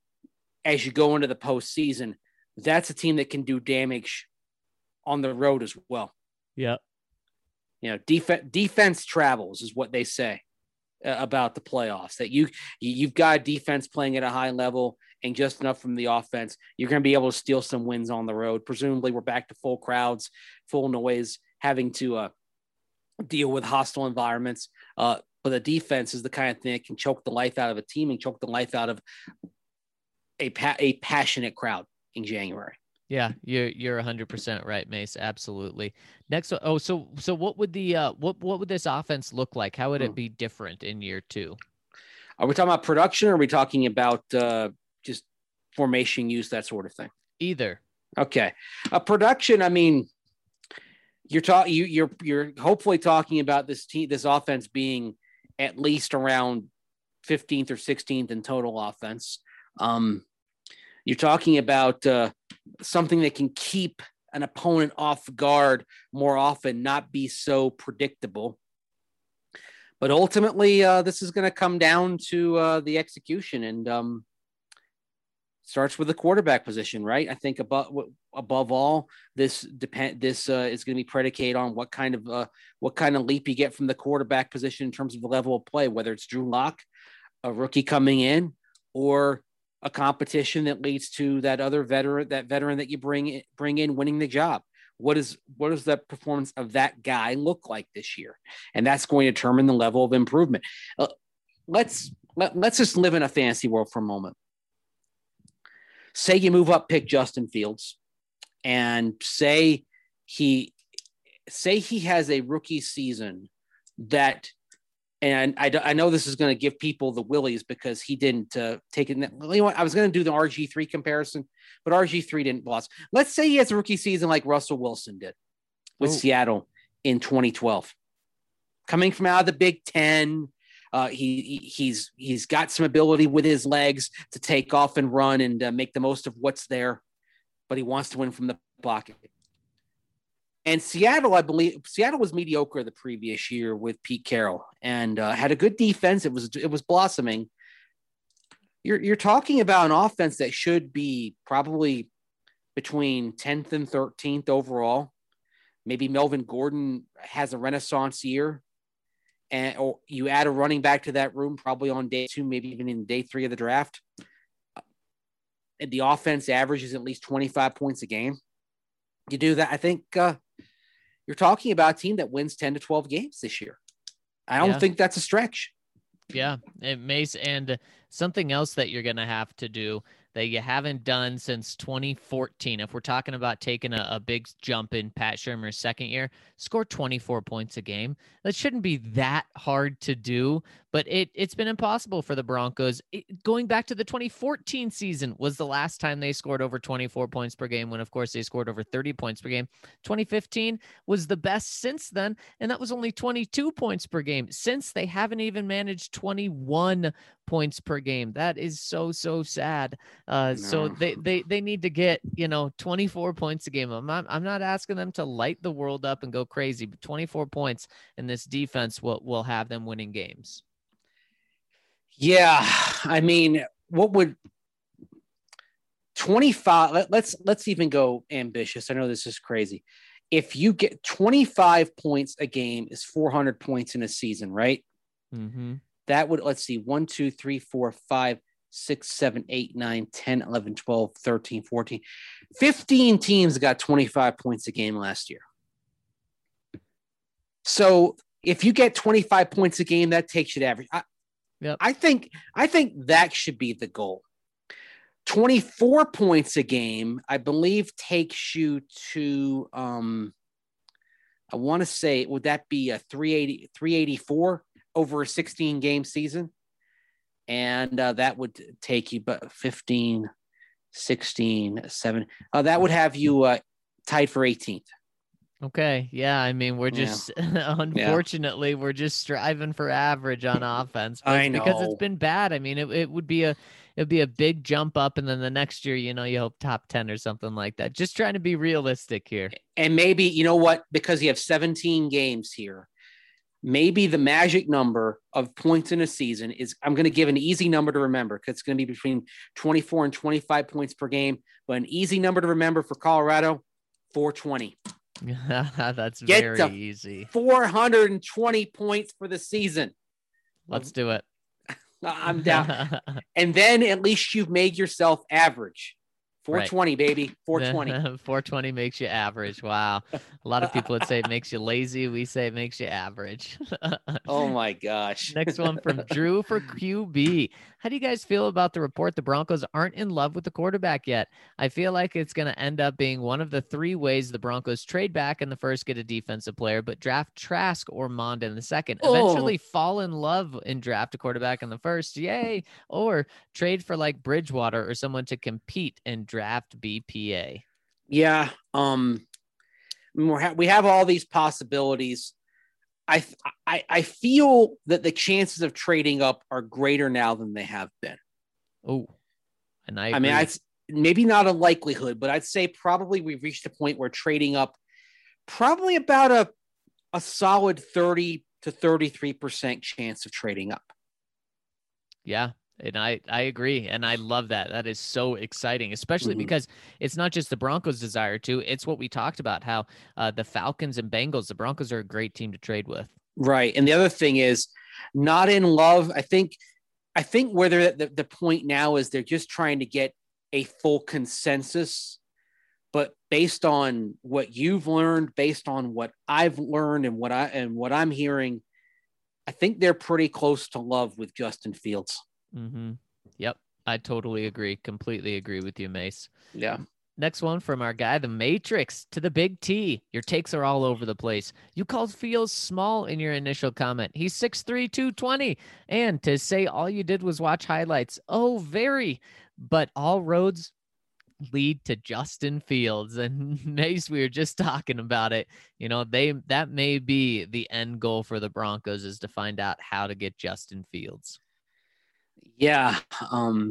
as you go into the postseason, that's a team that can do damage on the road as well. Yeah. You know, def- defense travels is what they say uh, about the playoffs, that you, you've got a defense playing at a high level and just enough from the offense. You're going to be able to steal some wins on the road. Presumably we're back to full crowds, full noise, having to, uh, deal with hostile environments. Uh, but the defense is the kind of thing that can choke the life out of a team and choke the life out of a pa- a passionate crowd in January. Yeah, you're you're one hundred percent right, Mace. Absolutely. Next, oh, so so what would the uh, what what would this offense look like? How would it be different in year two? Are we talking about production, or are we talking about uh, just formation use, that sort of thing? Either. Okay, uh, production. I mean. You're talking. You, you're you're hopefully talking about this team, this offense being at least around fifteenth or sixteenth in total offense. Um, you're talking about uh, something that can keep an opponent off guard more often, not be so predictable. But ultimately, uh, this is going to come down to uh, the execution, and um, starts with the quarterback position, right? I think above above all, this depend this uh, is going to be predicated on what kind of uh, what kind of leap you get from the quarterback position in terms of the level of play, whether it's Drew Lock, a rookie coming in, or a competition that leads to that other veteran, that veteran that you bring bring in winning the job. What is what does the performance of that guy look like this year? And that's going to determine the level of improvement. Uh, let's let, let's just live in a fantasy world for a moment. Say you move up, pick Justin Fields, and say he say he has a rookie season that, and I, I know this is going to give people the willies because he didn't uh, take it. You know what? I was going to do the R G three comparison, but R G three didn't blossom. Let's say he has a rookie season like Russell Wilson did with oh. Seattle in twenty twelve, coming from out of the Big Ten. Uh, he, he he's he's got some ability with his legs to take off and run and uh, make the most of what's there, but he wants to win from the pocket. And Seattle, I believe, Seattle was mediocre the previous year with Pete Carroll and uh, had a good defense. It was it was blossoming. You're you're talking about an offense that should be probably between tenth and thirteenth overall. Maybe Melvin Gordon has a renaissance year. And or you add a running back to that room, probably on day two, maybe even in day three of the draft. And the offense averages at least twenty-five points a game. You do that, I think uh, you're talking about a team that wins ten to twelve games this year. I don't yeah. think that's a stretch. Yeah, it makes, and something else that you're going to have to do that you haven't done since twenty fourteen. If we're talking about taking a, a big jump in Pat Shermer's second year, score twenty-four points a game. That shouldn't be that hard to do, but it, it's been impossible for the Broncos. It, going back to the twenty fourteen season was the last time they scored over twenty-four points per game, when, of course, they scored over thirty points per game. twenty fifteen was the best since then, and that was only twenty-two points per game. Since, they haven't even managed twenty-one points per game. That is so, so sad. Uh, no. So they, they, they need to get, you know, twenty-four points a game. I'm not, I'm not asking them to light the world up and go crazy, but twenty-four points in this defense will, will have them winning games. Yeah. I mean, what would twenty-five, let, let's, let's even go ambitious. I know this is crazy. If you get twenty-five points a game is four hundred points in a season, right? Mm-hmm. That would, let's see, one, two, three, four, five, six, seven, eight, nine, ten, eleven, twelve, thirteen, fourteen, fifteen teams got twenty-five points a game last year. So if you get twenty-five points a game, that takes you to average. I, yep. I think, I think that should be the goal. twenty-four points a game, I believe, takes you to, um, I want to say, would that be a three eighty, three eighty-four over a sixteen game season? And uh, that would take you but fifteen, sixteen, seven. Uh, that would have you uh, tied for eighteenth. Okay. Yeah. I mean, we're just, yeah. unfortunately, yeah. we're just striving for average on offense. I know. Because it's been bad. I mean, it, it would be a, it would be a big jump up. And then the next year, you know, you hope top ten or something like that. Just trying to be realistic here. And maybe, you know what, because you have seventeen games here, maybe the magic number of points in a season is, I'm going to give an easy number to remember, because it's going to be between twenty-four and twenty-five points per game. But an easy number to remember for Colorado, four twenty. That's Get very easy. four hundred twenty points for the season. Let's do it. I'm down. And then at least you've made yourself average. four twenty, right. Baby. four twenty. four twenty makes you average. Wow. A lot of people would say it makes you lazy. We say it makes you average. Oh, my gosh. Next one from Drew for Q B. How do you guys feel about the report the Broncos aren't in love with the quarterback yet? I feel like it's going to end up being one of the three ways the Broncos trade back in the first, get a defensive player, but draft Trask or Mond in the second. Eventually oh. fall in love and draft a quarterback in the first. Yay. Or trade for like Bridgewater or someone to compete and draft B P A. Yeah. Um, we have all these possibilities. I, I I feel that the chances of trading up are greater now than they have been. Oh, and I, I mean, I'd, maybe not a likelihood, but I'd say probably we've reached a point where trading up, probably about a a solid thirty to thirty-three percent chance of trading up. Yeah. And I, I agree. And I love that. That is so exciting, especially mm-hmm. because it's not just the Broncos' desire to, it's what we talked about, how uh, the Falcons and Bengals, the Broncos are a great team to trade with. Right. And the other thing is not in love. I think, I think where they're at the, the point now is they're just trying to get a full consensus, but based on what you've learned, based on what I've learned and what I, and what I'm hearing, I think they're pretty close to love with Justin Fields. Mm-hmm. Yep. I totally agree. Completely agree with you, Mace. Yeah. Next one from our guy, the Matrix to the Big T. Your takes are all over the place. You called Fields small in your initial comment. He's six three, two twenty. And to say all you did was watch highlights. Oh, very. But all roads lead to Justin Fields. And Mace, we were just talking about it. You know, they that may be the end goal for the Broncos, is to find out how to get Justin Fields. Yeah. Um,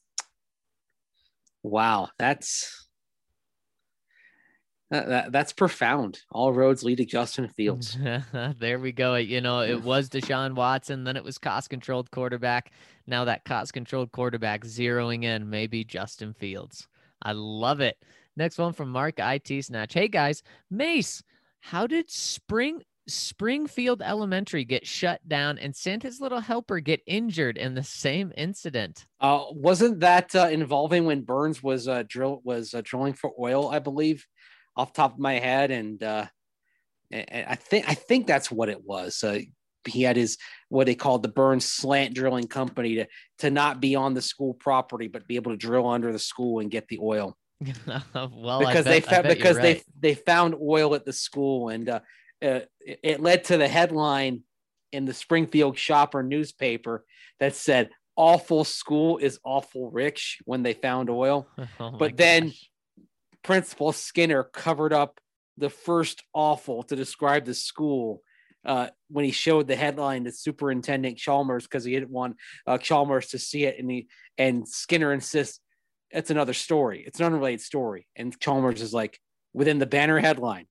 wow. That's, that, that, that's profound. All roads lead to Justin Fields. There we go. You know, it was Deshaun Watson, then it was cost controlled quarterback. Now that cost controlled quarterback zeroing in, maybe Justin Fields. I love it. Next one from Mark I T Snatch. Hey guys, Mace, how did spring Springfield Elementary get shut down and Santa's little helper get injured in the same incident? Uh, wasn't that uh, involving when Burns was uh, drill was uh, drilling for oil, I believe, off the top of my head, and uh, and I think I think that's what it was. Uh, he had his, what they called the Burns Slant Drilling Company to, to not be on the school property, but be able to drill under the school and get the oil. well, because bet, they found, because right. they, they found oil at the school, and uh, uh, it, it led to the headline in the Springfield Shopper newspaper that said, "Awful school is awful rich," when they found oil. Oh but then gosh. Principal Skinner covered up the first awful to describe the school uh, when he showed the headline to Superintendent Chalmers, because he didn't want uh, Chalmers to see it. And he, and Skinner insists it's another story. It's an unrelated story. And Chalmers is like, within the banner headline.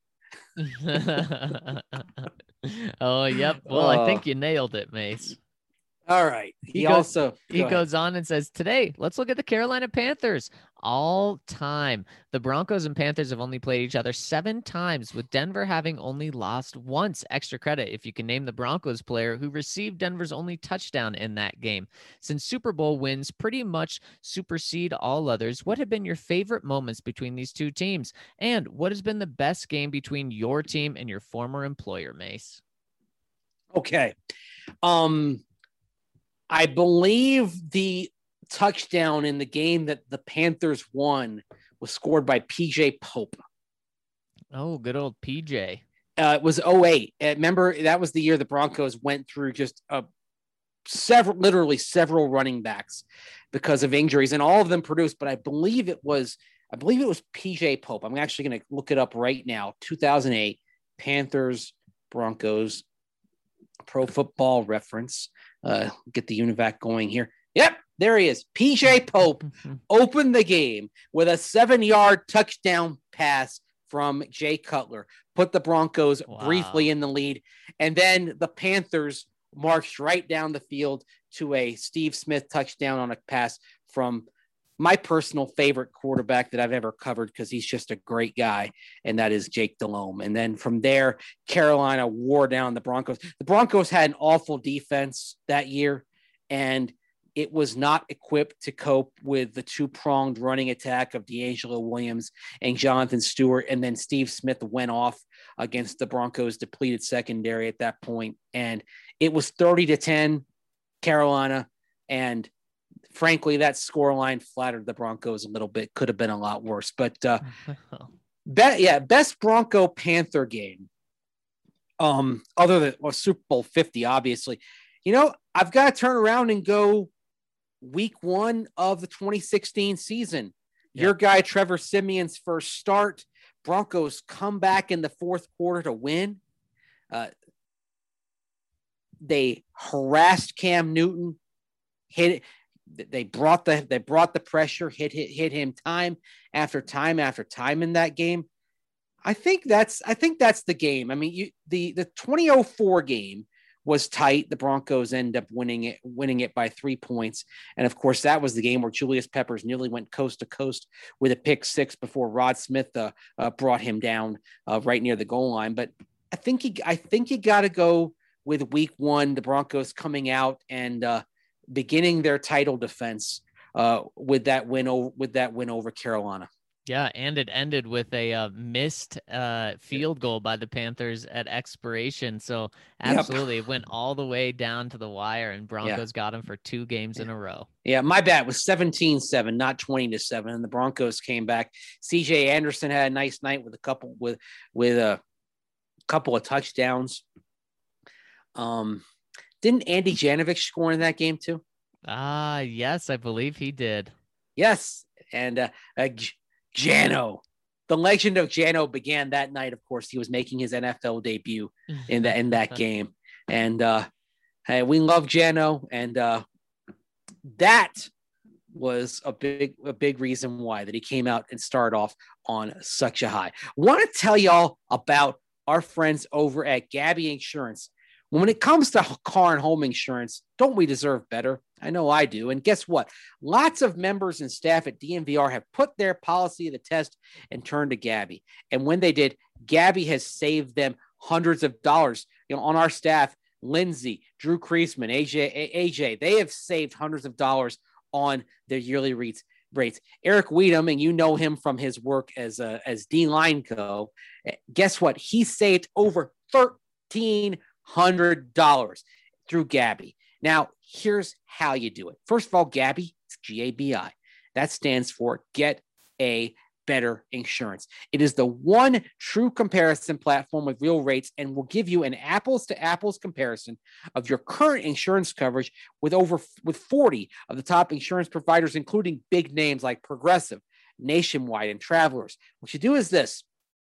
oh, yep. Well, uh, I think you nailed it, Mace. All right. He, he goes, also go he ahead. goes on and says, today, let's look at the Carolina Panthers. All time, the Broncos and Panthers have only played each other seven times, with Denver having only lost once. Extra credit if you can name the Broncos player who received Denver's only touchdown in that game. Since Super Bowl wins pretty much supersede all others, what have been your favorite moments between these two teams? And what has been the best game between your team and your former employer, Mace? Okay. Um, I believe the touchdown in the game that the Panthers won was scored by P J Pope. Oh, good old P J. Uh, it was oh eight. Uh, remember, that was the year the Broncos went through just a several, literally several running backs because of injuries, and all of them produced. But I believe it was, I believe it was P J Pope. I'm actually going to look it up right now. two thousand eight Panthers, Broncos, Pro Football Reference. Uh, get the UNIVAC going here. Yep, there he is. P J Pope opened the game with a seven-yard touchdown pass from Jay Cutler, put the Broncos wow. briefly in the lead, and then the Panthers marched right down the field to a Steve Smith touchdown on a pass from my personal favorite quarterback that I've ever covered, because he's just a great guy, and that is Jake Delhomme. And then from there, Carolina wore down the Broncos. The Broncos had an awful defense that year, and it was not equipped to cope with the two-pronged running attack of D'Angelo Williams and Jonathan Stewart. And then Steve Smith went off against the Broncos' depleted secondary at that point, and it was thirty to ten Carolina, and frankly, that scoreline flattered the Broncos a little bit. Could have been a lot worse. But uh, be- yeah, best Bronco Panther game, um, other than well, Super Bowl fifty, obviously. You know, I've got to turn around and go week one of the twenty sixteen season. Yeah. Your guy, Trevor Siemian's first start. Broncos come back in the fourth quarter to win. Uh, they harassed Cam Newton, hit it. They brought the they brought the pressure, hit hit hit him time after time after time in that game. I think that's I think that's the game. I mean, you the the twenty oh four game was tight. The Broncos end up winning it winning it by three points, and of course that was the game where Julius Peppers nearly went coast to coast with a pick six before Rod Smith uh, uh, brought him down uh, right near the goal line. But I think you I think you got to go with week one. The Broncos coming out and uh, beginning their title defense uh, with that win over with that win over Carolina. Yeah, and it ended with a uh, missed uh, field goal by the Panthers at expiration. So absolutely, yep. It went all the way down to the wire, and Broncos yeah. got him for two games yeah. in a row. Yeah, my bad. It was seventeen seven, not twenty to seven, and the Broncos came back. C J Anderson had a nice night with a couple with with a couple of touchdowns. Um. Didn't Andy Janovich score in that game too? Ah, uh, yes, I believe he did. Yes, and uh, uh, Jano, the legend of Jano, began that night. Of course, he was making his N F L debut in that in that game, and uh, hey, we love Jano, and uh, that was a big a big reason why that he came out and started off on such a high. Want to tell y'all about our friends over at Gabby Insurance. When it comes to car and home insurance, don't we deserve better? I know I do. And guess what? Lots of members and staff at D N V R have put their policy to the test and turned to Gabby. And when they did, Gabby has saved them hundreds of dollars. You know, on our staff, Lindsay, Drew Kreisman, A J, A J, they have saved hundreds of dollars on their yearly rates. Rates. Eric Weedham, and you know him from his work as a, as D-Line Co. Guess what? He saved over thirteen hundred dollars through Gabi. Now, here's how you do it. First of all, Gabi, it's G A B I. That stands for Get a Better Insurance. It is the one true comparison platform with real rates and will give you an apples to apples comparison of your current insurance coverage with over with forty of the top insurance providers, including big names like Progressive, Nationwide, and Travelers. What you do is this.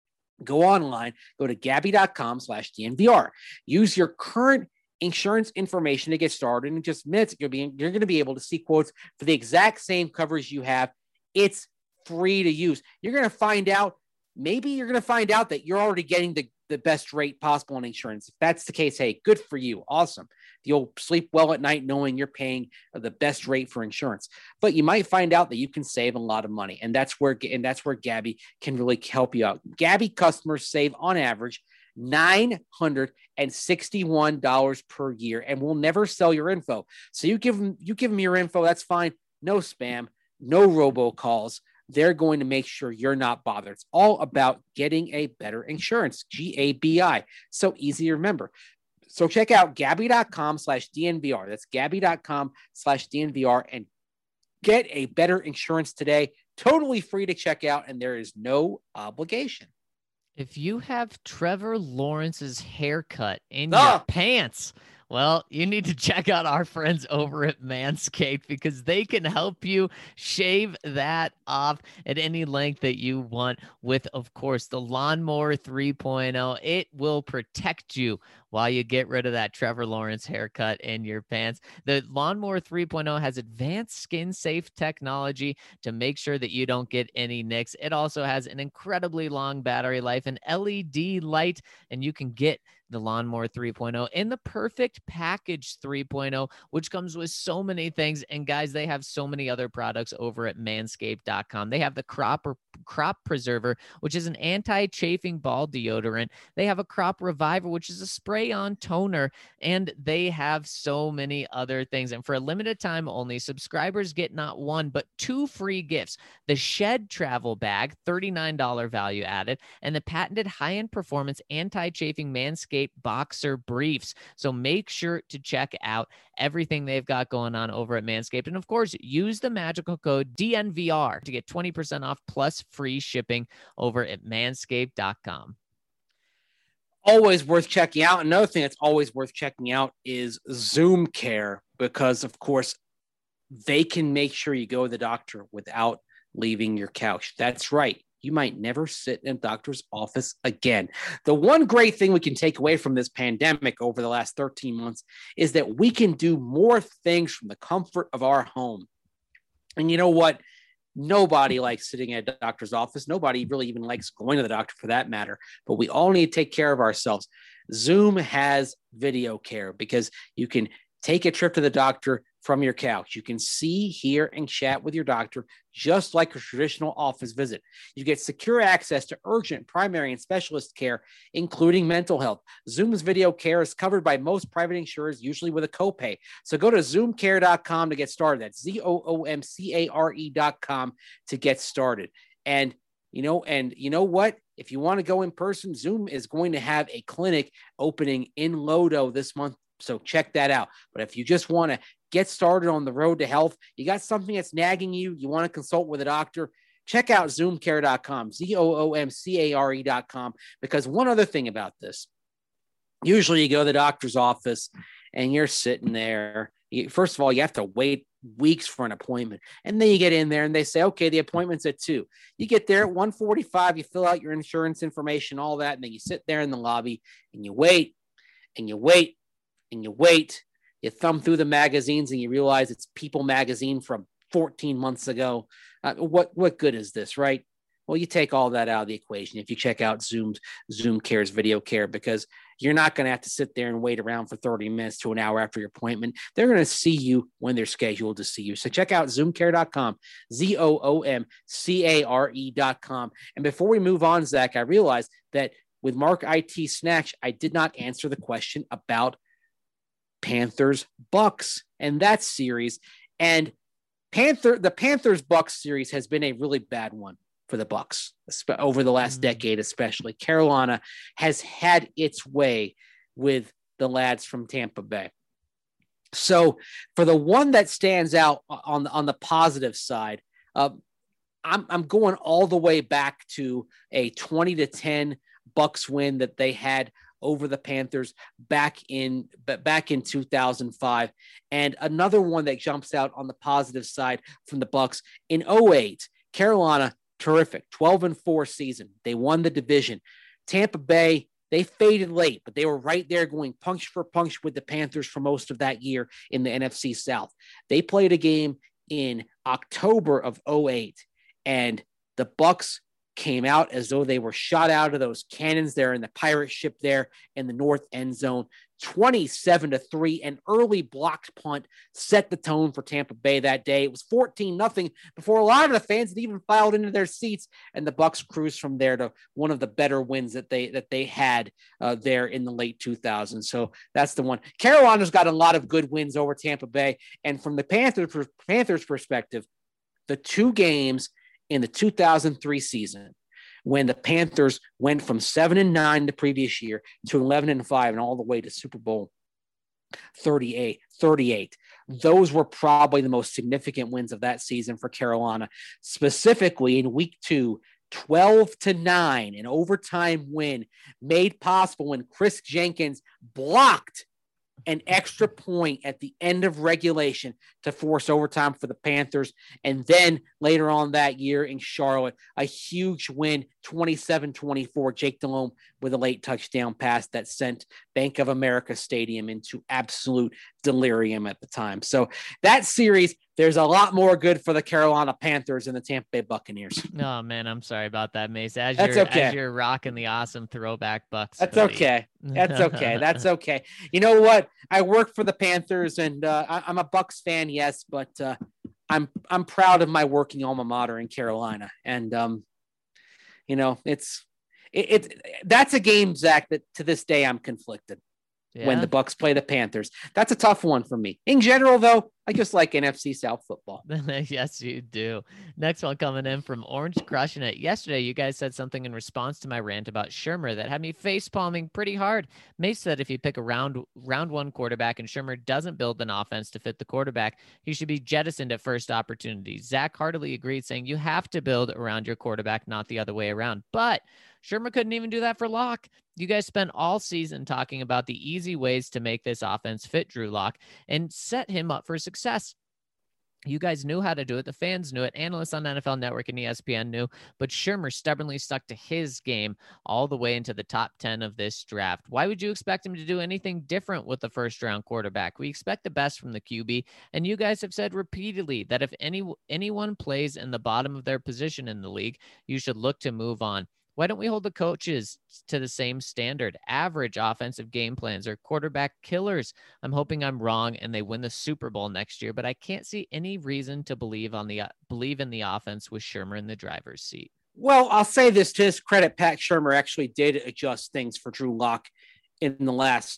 Go online, go to Gabi.com slash DNVR. Use your current insurance information to get started. In just minutes, you'll be, you're going to be able to see quotes for the exact same coverage you have. It's free to use. You're going to find out, maybe you're going to find out that you're already getting the, the best rate possible on insurance. If that's the case, hey, good for you. Awesome. You'll sleep well at night knowing you're paying the best rate for insurance. But you might find out that you can save a lot of money. And that's where, and that's where Gabi can really help you out. Gabi customers save on average nine hundred sixty-one dollars per year and will never sell your info. So you give them, you give them your info. That's fine. No spam, no robocalls. They're going to make sure you're not bothered. It's all about getting a better insurance, G A B I. So easy to remember. So check out Gabi.com slash DNVR. That's Gabi.com slash DNVR and get a better insurance today. Totally free to check out, and there is no obligation. If you have Trevor Lawrence's haircut in Ah! your pants, well, you need to check out our friends over at Manscaped because they can help you shave that off at any length that you want with, of course, the Lawnmower three point oh. It will protect you while you get rid of that Trevor Lawrence haircut in your pants. The Lawnmower three point oh has advanced skin-safe technology to make sure that you don't get any nicks. It also has an incredibly long battery life, an L E D light, and you can get the Lawnmower three point oh in the Perfect Package three point oh, which comes with so many things. And guys, they have so many other products over at manscaped dot com. They have the Crop Crop Preserver, which is an anti-chafing ball deodorant. They have a Crop Reviver, which is a spray-on toner, and they have so many other things. And for a limited time only, subscribers get not one, but two free gifts. The Shed Travel Bag, thirty-nine dollars value added, and the patented high-end performance anti-chafing Manscaped Boxer Briefs. So make sure to check out everything they've got going on over at Manscaped. And of course, use the magical code D N V R to get twenty percent off plus free shipping over at manscaped dot com. Always worth checking out. Another thing that's always worth checking out is Zoom Care, because of course they can make sure you go to the doctor without leaving your couch. That's right. You might never sit in a doctor's office again. The one great thing we can take away from this pandemic over the last thirteen months is that we can do more things from the comfort of our home. And you know what? Nobody likes sitting at a doctor's office. Nobody really even likes going to the doctor for that matter, but we all need to take care of ourselves. Zoom has video care because you can take a trip to the doctor from your couch. You can see, hear, and chat with your doctor just like a traditional office visit. You get secure access to urgent, primary, and specialist care, including mental health. Zoom's video care is covered by most private insurers, usually with a copay. So go to zoom care dot com to get started. That's Z O O M C A R E dot com to get started. And you know, and you know what? If you want to go in person, Zoom is going to have a clinic opening in Lodo this month. So check that out. But if you just want to get started on the road to health, you got something that's nagging you, you want to consult with a doctor, check out zoom care dot com, Z O O M C A R E dot com. Because one other thing about this, usually you go to the doctor's office and you're sitting there. You, first of all, you have to wait weeks for an appointment. And then you get in there and they say, okay, the appointment's at two. You get there at one forty-five, you fill out your insurance information, all that. And then you sit there in the lobby and you wait and you wait and you wait. You thumb through the magazines and you realize it's People magazine from fourteen months ago. Uh, what what good is this, right? Well, you take all that out of the equation if you check out Zoom's Zoom Care's video care, because you're not going to have to sit there and wait around for thirty minutes to an hour after your appointment. They're going to see you when they're scheduled to see you. So check out zoom care dot com, Z O O M C A R E dot com. And before we move on, Zach, I realized that with Mark I T Snatch, I did not answer the question about Panthers Bucks and that series. And Panther the Panthers Bucks series has been a really bad one for the Bucks over the last mm-hmm. decade, especially. Carolina has had its way with the lads from Tampa Bay. So for the one that stands out on the, on the positive side, uh, I'm, I'm going all the way back to a twenty to ten Bucks win that they had over the Panthers back in back in two thousand five. And another one that jumps out on the positive side from the Bucks in oh eight, Carolina, terrific, twelve and four season. They won the division. Tampa Bay, they faded late, but they were right there going punch for punch with the Panthers for most of that year in the N F C South. They played a game in October of oh eight, and the Bucks came out as though they were shot out of those cannons there in the pirate ship there in the north end zone. twenty-seven to three, an early blocked punt set the tone for Tampa Bay that day. It was fourteen nothing before a lot of the fans had even filed into their seats, and the Bucks cruised from there to one of the better wins that they that they had uh, there in the late two thousands. So that's the one. Carolina's got a lot of good wins over Tampa Bay, and from the Panthers Panthers perspective, the two games in the two thousand three season, when the Panthers went from seven and nine the previous year to eleven and five and all the way to Super Bowl thirty-eight, thirty-eight. Those were probably the most significant wins of that season for Carolina, specifically in week two, twelve to nine, an overtime win made possible when Chris Jenkins blocked an extra point at the end of regulation to force overtime for the Panthers. And then later on that year in Charlotte, a huge win, twenty-seven twenty-four, Jake Delhomme with a late touchdown pass that sent Bank of America Stadium into absolute delirium at the time. So that series, there's a lot more good for the Carolina Panthers and the Tampa Bay Buccaneers. Oh man, I'm sorry about that, Mace. As That's you're, okay. As you're rocking the awesome throwback Bucks. That's buddy. okay. That's okay. That's okay. You know what? I work for the Panthers, and uh, I, I'm a Bucks fan, yes, but uh, I'm I'm proud of my working alma mater in Carolina, and um, you know, it's it, it that's a game, Zach, that to this day I'm conflicted. Yeah. When the Bucks play the Panthers. That's a tough one for me. In general, though, I just like N F C South football. Yes, you do. Next one coming in from Orange Crushing It. Yesterday, you guys said something in response to my rant about Shurmur that had me face palming pretty hard. Mace said if you pick a round round one quarterback and Shurmur doesn't build an offense to fit the quarterback, he should be jettisoned at first opportunity. Zach heartily agreed, saying you have to build around your quarterback, not the other way around. But Shurmur couldn't even do that for Locke. You guys spent all season talking about the easy ways to make this offense fit Drew Lock and set him up for success. You guys knew how to do it. The fans knew it. Analysts on N F L Network and E S P N knew. But Shurmur stubbornly stuck to his game all the way into the top ten of this draft. Why would you expect him to do anything different with the first-round quarterback? We expect the best from the Q B, and you guys have said repeatedly that if any anyone plays in the bottom of their position in the league, you should look to move on. Why don't we hold the coaches to the same standard? Average offensive game plans or quarterback killers. I'm hoping I'm wrong and they win the Super Bowl next year, but I can't see any reason to believe on the uh, believe in the offense with Shurmur in the driver's seat. Well, I'll say this to his credit. Pat Shurmur actually did adjust things for Drew Lock in the last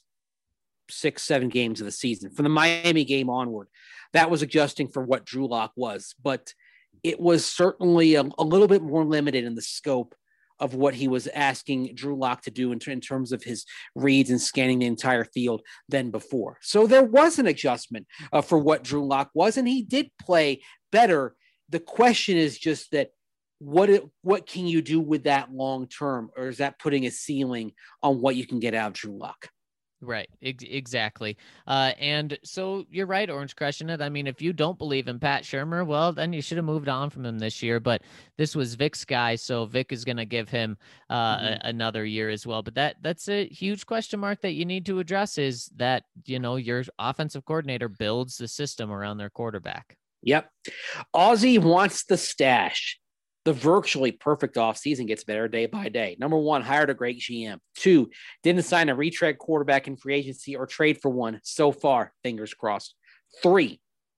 six, seven games of the season. From the Miami game onward, that was adjusting for what Drew Lock was, but it was certainly a, a little bit more limited in the scope of what he was asking Drew Lock to do in, in terms of his reads and scanning the entire field than before. So there was an adjustment uh, for what Drew Lock was, and he did play better. The question is just that what it, what can you do with that long term, or is that putting a ceiling on what you can get out of Drew Lock? Right. Ex- exactly. Uh, and so you're right, Orange Crushing It. I mean, if you don't believe in Pat Shurmur, well, then you should have moved on from him this year. But this was Vic's guy, so Vic is going to give him uh, mm-hmm. a- another year as well. But that that's a huge question mark that you need to address is that, you know, your offensive coordinator builds the system around their quarterback. Yep. Aussie wants the stash. The virtually perfect offseason gets better day by day. Number one, hired a great G M. Two, didn't sign a retread quarterback in free agency or trade for one so far, fingers crossed. Three,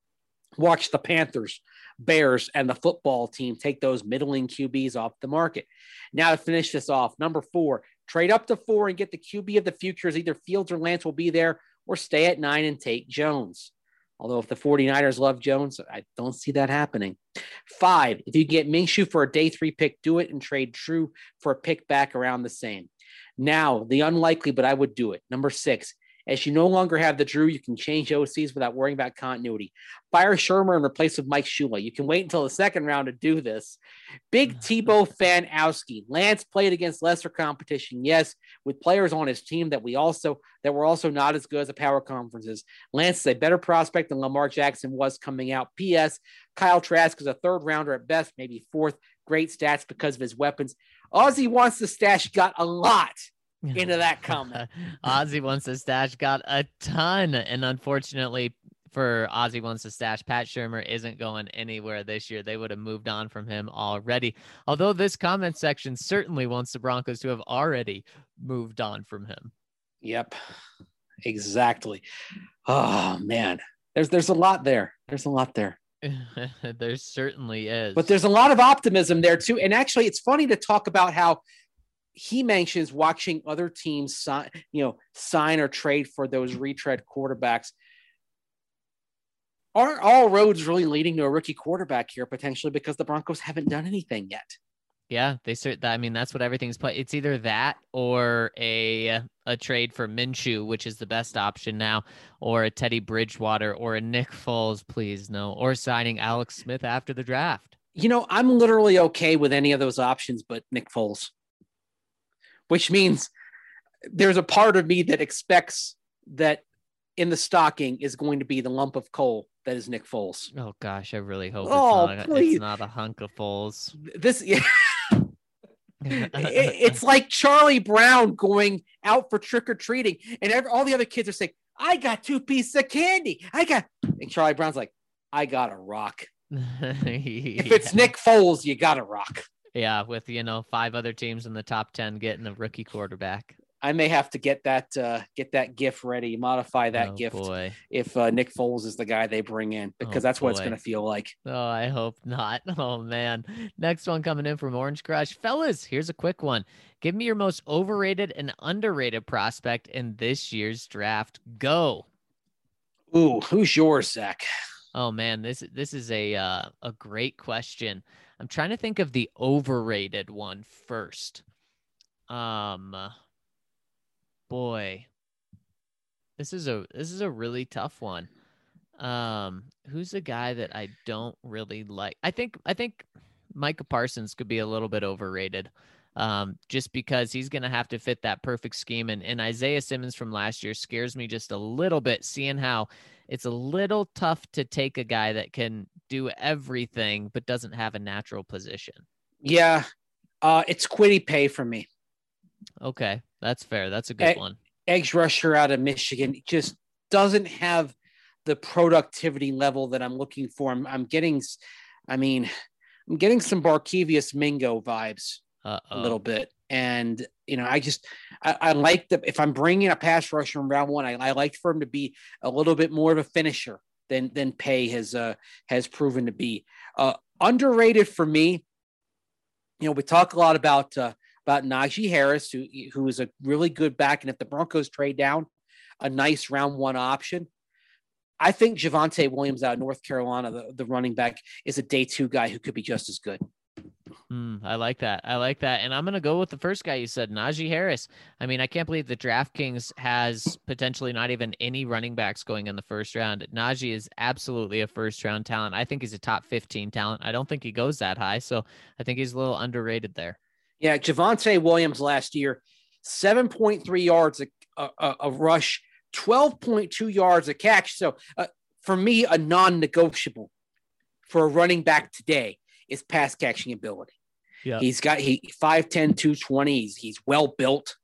watch the Panthers, Bears, and the football team take those middling Q Bs off the market. Now to finish this off, number four, trade up to four and get the Q B of the future as either Fields or Lance will be there, or stay at nine and take Jones. Although if the 49ers love Jones, I don't see that happening. Five, if you get Minshew for a day three pick, do it and trade Drew for a pick back around the same. Now, the unlikely, but I would do it. Number six, As you no longer have the Drew, you can change O Cs without worrying about continuity. Fire Shermer and replace with Mike Shula. You can wait until the second round to do this. Big Tebow Fanowski. Lance played against lesser competition, yes, with players on his team that we also that were also not as good as the power conferences. Lance is a better prospect than Lamar Jackson was coming out. P S. Kyle Trask is a third rounder at best, maybe fourth. Great stats because of his weapons. Ozzy wants the stash got a lot into that comment. Ozzy wants the stash got a ton. And unfortunately for Ozzy wants the stash, Pat Shermer isn't going anywhere this year. They would have moved on from him already. Although this comment section certainly wants the Broncos to have already moved on from him. Yep, exactly. Oh, man. There's, there's a lot there. There's a lot there. There certainly is. But there's a lot of optimism there, too. And actually, it's funny to talk about how he mentions watching other teams sign, you know, sign or trade for those retread quarterbacks. Aren't all roads really leading to a rookie quarterback here potentially because the Broncos haven't done anything yet? Yeah, they cert. I mean, that's what everything's played. It's either that or a a trade for Minshew, which is the best option now, or a Teddy Bridgewater or a Nick Foles, please no, or signing Alex Smith after the draft. You know, I'm literally okay with any of those options, but Nick Foles, which means there's a part of me that expects that in the stocking is going to be the lump of coal that is Nick Foles. Oh gosh, I really hope oh, it's, not a, it's not a hunk of Foles. This. Yeah. it, it's like Charlie Brown going out for trick-or-treating and every, all the other kids are saying, I got two pieces of candy. I got, and Charlie Brown's like, I got a rock. yeah. If it's Nick Foles, you got a rock. Yeah. With, you know, five other teams in the top ten getting a rookie quarterback. I may have to get that, uh, get that GIF ready, modify that oh, gift boy. if uh, Nick Foles is the guy they bring in, because oh, that's boy. what it's going to feel like. Oh, I hope not. Oh, man. Next one coming in from Orange Crush. Fellas, here's a quick one. Give me your most overrated and underrated prospect in this year's draft. Go. Ooh, who's yours, Zach? Oh, man, this this is a uh, a great question. I'm trying to think of the overrated one first. Um... Boy, this is a this is a really tough one. Um, who's a guy that I don't really like? I think I think Micah Parsons could be a little bit overrated, um, just because he's going to have to fit that perfect scheme. And, and Isaiah Simmons from last year scares me just a little bit, seeing how it's a little tough to take a guy that can do everything but doesn't have a natural position. Yeah, uh, it's Kwity Paye for me. Okay, that's fair. That's a good Egg, one. Edge rusher out of Michigan just doesn't have the productivity level that I'm looking for. I'm, I'm getting, I mean, I'm getting some Barkevius Mingo vibes Uh-oh. a little bit. And, you know, I just, I, I like the, if I'm bringing a pass rusher in round one, I, I like for him to be a little bit more of a finisher than, than Paye has, uh, has proven to be. Uh, underrated for me, you know, we talk a lot about, uh, about Najee Harris, who, who is a really good back. And if the Broncos trade down, a nice round one option. I think Javonte Williams out of North Carolina, the, the running back, is a day two guy who could be just as good. Mm, I like that. I like that. And I'm going to go with the first guy you said, Najee Harris. I mean, I can't believe the DraftKings has potentially not even any running backs going in the first round. Najee is absolutely a first round talent. I think he's a top fifteen talent. I don't think he goes that high. So I think he's a little underrated there. Yeah, Javonte Williams last year, seven point three yards a, a, a rush, twelve point two yards a catch. So uh, for me, a non-negotiable for a running back today is pass catching ability. Yeah, he's got he five ten, two twenty. He's, he's well built.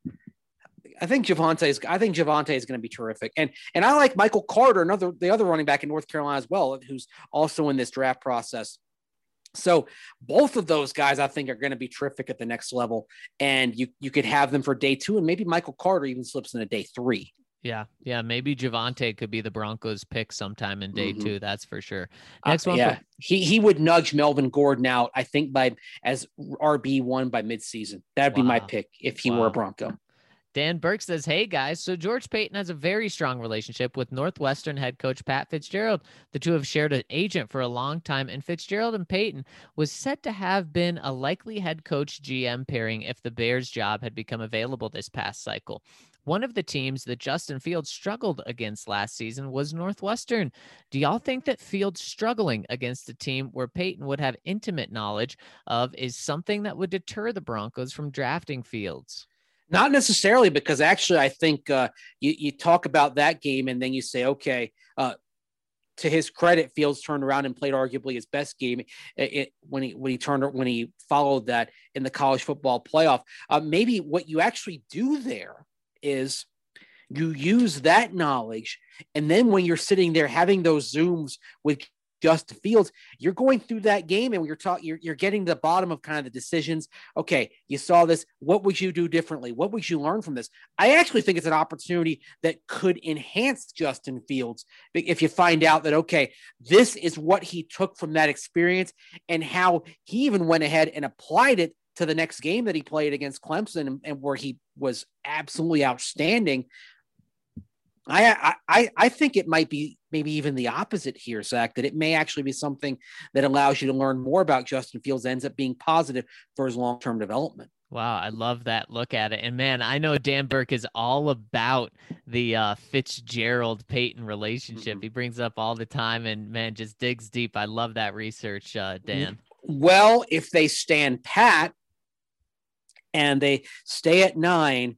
I think Javonte is. I think Javonte is going to be terrific, and and I like Michael Carter, another the other running back in North Carolina as well, who's also in this draft process. So both of those guys, I think, are going to be terrific at the next level, and you you could have them for day two, and maybe Michael Carter even slips into day three. Yeah, yeah, maybe Javonte could be the Broncos' pick sometime in day mm-hmm. two. That's for sure. Next uh, one, yeah, for- he he would nudge Melvin Gordon out, I think, by as R B one by midseason. That'd wow. be my pick if he wow. were a Bronco. Dan Burke says, hey, guys, so George Paton has a very strong relationship with Northwestern head coach Pat Fitzgerald. The two have shared an agent for a long time, and Fitzgerald and Paton was said to have been a likely head coach G M pairing if the Bears job had become available this past cycle. One of the teams that Justin Fields struggled against last season was Northwestern. Do y'all think that Fields struggling against a team where Peyton would have intimate knowledge of is something that would deter the Broncos from drafting Fields? Not necessarily, because actually I think uh, you, you talk about that game and then you say, okay, uh, to his credit, Fields turned around and played arguably his best game it, it, when he when he turned when he followed that in the college football playoff. Uh, maybe what you actually do there is you use that knowledge, and then when you're sitting there having those Zooms with Justin Fields, you're going through that game and you're talking, you're, you're getting to the bottom of kind of the decisions. Okay, you saw this. What would you do differently? What would you learn from this? I actually think it's an opportunity that could enhance Justin Fields if you find out that, okay, this is what he took from that experience and how he even went ahead and applied it to the next game that he played against Clemson and, and where he was absolutely outstanding. I, I I think it might be maybe even the opposite here, Zach, that it may actually be something that allows you to learn more about Justin Fields, ends up being positive for his long-term development. Wow, I love that look at it. And man, I know Dan Burke is all about the uh, Fitzgerald-Peyton relationship. Mm-hmm. He brings up all the time and, man, just digs deep. I love that research, uh, Dan. Well, if they stand pat and they stay at nine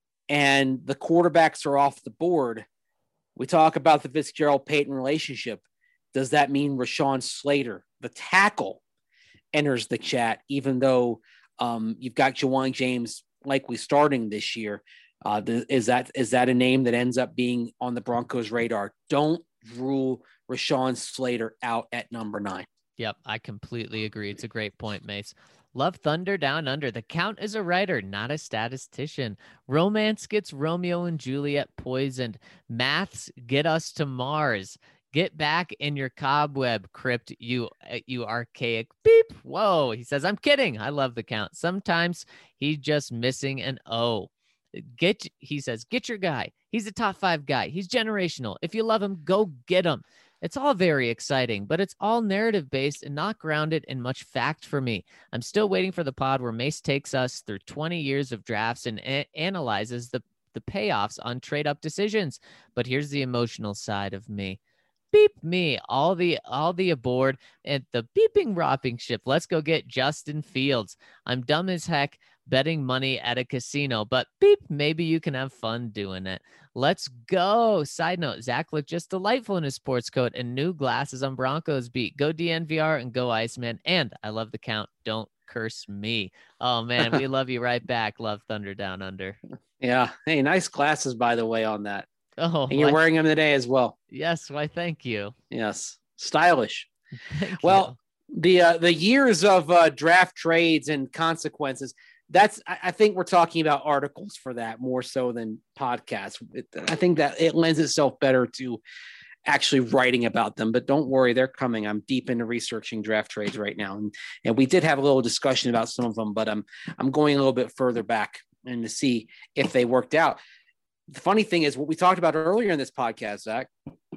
and the quarterbacks are off the board, we talk about the Fitzgerald-Peyton relationship. Does that mean Rashawn Slater, the tackle, enters the chat, even though um, you've got Ja'Wuan James likely starting this year? Uh, the, is that is that a name that ends up being on the Broncos' radar? Don't rule Rashawn Slater out at number nine. Yep, I completely agree. It's a great point, Mace. Love Thunder Down Under. The Count is a writer, not a statistician. Romance gets Romeo and Juliet poisoned. Maths get us to Mars. Get back in your cobweb, Crypt, you you archaic beep. Whoa, he says, I'm kidding. I love the Count. Sometimes he's just missing an O. Get, he says, get your guy. He's a top five guy. He's generational. If you love him, go get him. It's all very exciting, but it's all narrative based and not grounded in much fact for me. I'm still waiting for the pod where Mace takes us through twenty years of drafts and a- analyzes the, the payoffs on trade up decisions. But here's the emotional side of me. Beep me, all the all the aboard and the beeping ropping ship. Let's go get Justin Fields. I'm dumb as heck betting money at a casino, but beep, maybe you can have fun doing it. Let's go. Side note, Zach looked just delightful in his sports coat and new glasses on Broncos beat. Go D N V R and go Iceman. And I love the Count. Don't curse me. Oh man, we love you right back. Love Thunder Down Under. Yeah. Hey, nice glasses, by the way, on that. Oh, and you're why, wearing them today as well. Yes. Why, thank you. Yes. Stylish. Thank well, you. the uh, the years of uh, draft trades and consequences, that's, I, I think we're talking about articles for that more so than podcasts. It, I think that it lends itself better to actually writing about them, but don't worry, they're coming. I'm deep into researching draft trades right now. And, and we did have a little discussion about some of them, but I'm, I'm going a little bit further back and to see if they worked out. The funny thing is what we talked about earlier in this podcast, Zach.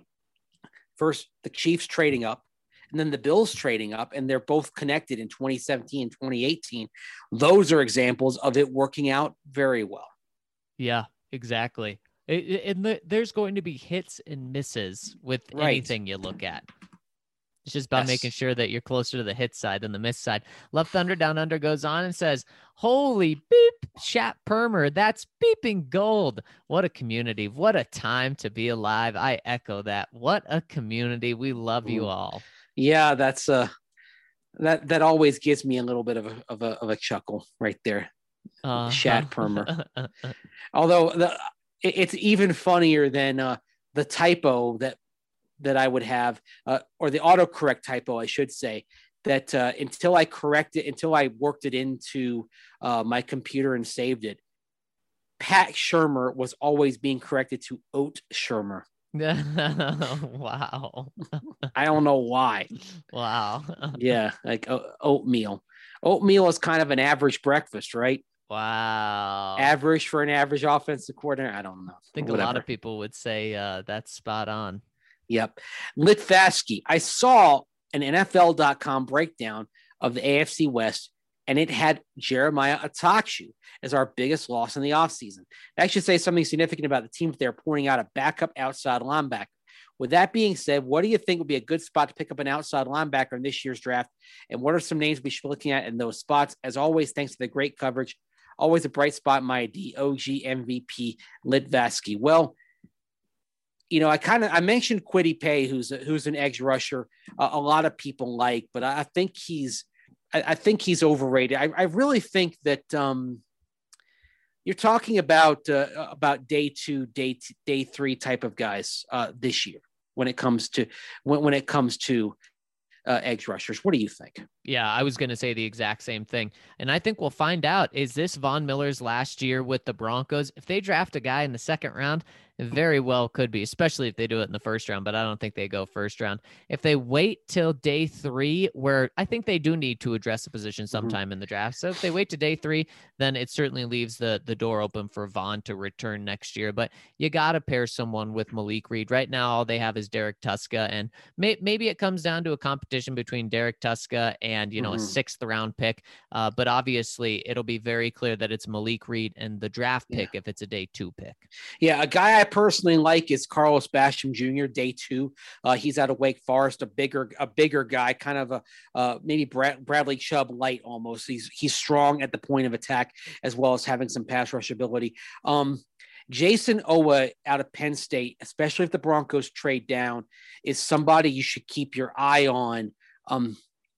First, the Chiefs trading up, and then the Bills trading up, and they're both connected in twenty seventeen and twenty eighteen. Those are examples of it working out very well. Yeah, exactly. It, it, and the, there's going to be hits and misses with right. anything you look at. It's just about yes. making sure that you're closer to the hit side than the miss side. Love Thunder Down Under goes on and says, holy beep, Shat Permer, that's beeping gold. What a community. What a time to be alive. I echo that. What a community. We love you all. Yeah, that's uh that that always gives me a little bit of a of a, of a chuckle right there. Uh, Shat Permer. Although the it, it's even funnier than uh the typo that that I would have, uh, or the autocorrect typo, I should say, that uh, until I corrected, until I worked it into uh, my computer and saved it, Pat Shermer was always being corrected to Oat Shermer. Wow. I don't know why. Wow. Yeah, like uh, oatmeal. Oatmeal is kind of an average breakfast, right? Wow. Average for an average offensive coordinator. I don't know. I think Whatever. A lot of people would say uh, that's spot on. Yep. Litvaski. I saw an N F L dot com breakdown of the A F C West, and it had Jeremiah Atakshu as our biggest loss in the offseason. That should say something significant about the team if they're pointing out a backup outside linebacker. With that being said, what do you think would be a good spot to pick up an outside linebacker in this year's draft? And what are some names we should be looking at in those spots? As always, thanks for the great coverage. Always a bright spot in my D, O G M V P, Litvasky. Well, you know, I kind of I mentioned Kwity Paye, who's a, who's an edge rusher. Uh, a lot of people like, but I think he's I, I think he's overrated. I, I really think that um, you're talking about uh, about day two, day t- day three type of guys uh, this year when it comes to when when it comes to uh, edge rushers. What do you think? Yeah, I was going to say the exact same thing. And I think we'll find out, is this Von Miller's last year with the Broncos? If they draft a guy in the second round, it very well could be, especially if they do it in the first round, but I don't think they go first round. If they wait till day three, where I think they do need to address a position sometime mm-hmm. in the draft. So if they wait to day three, then it certainly leaves the, the door open for Von to return next year. But you got to pair someone with Malik Reed. Right now, all they have is Derek Tuska, and may, maybe it comes down to a competition between Derek Tuska and and, you know, mm-hmm. a sixth round pick. Uh, but obviously it'll be very clear that it's Malik Reed and the draft pick yeah. if it's a day two pick. Yeah. A guy I personally like is Carlos Basham Junior, day two. Uh, he's out of Wake Forest, a bigger, a bigger guy, kind of a uh, maybe Brad, Bradley Chubb light almost. He's, he's strong at the point of attack as well as having some pass rush ability. Um, Jason Owa out of Penn State, especially if the Broncos trade down, is somebody you should keep your eye on. Um,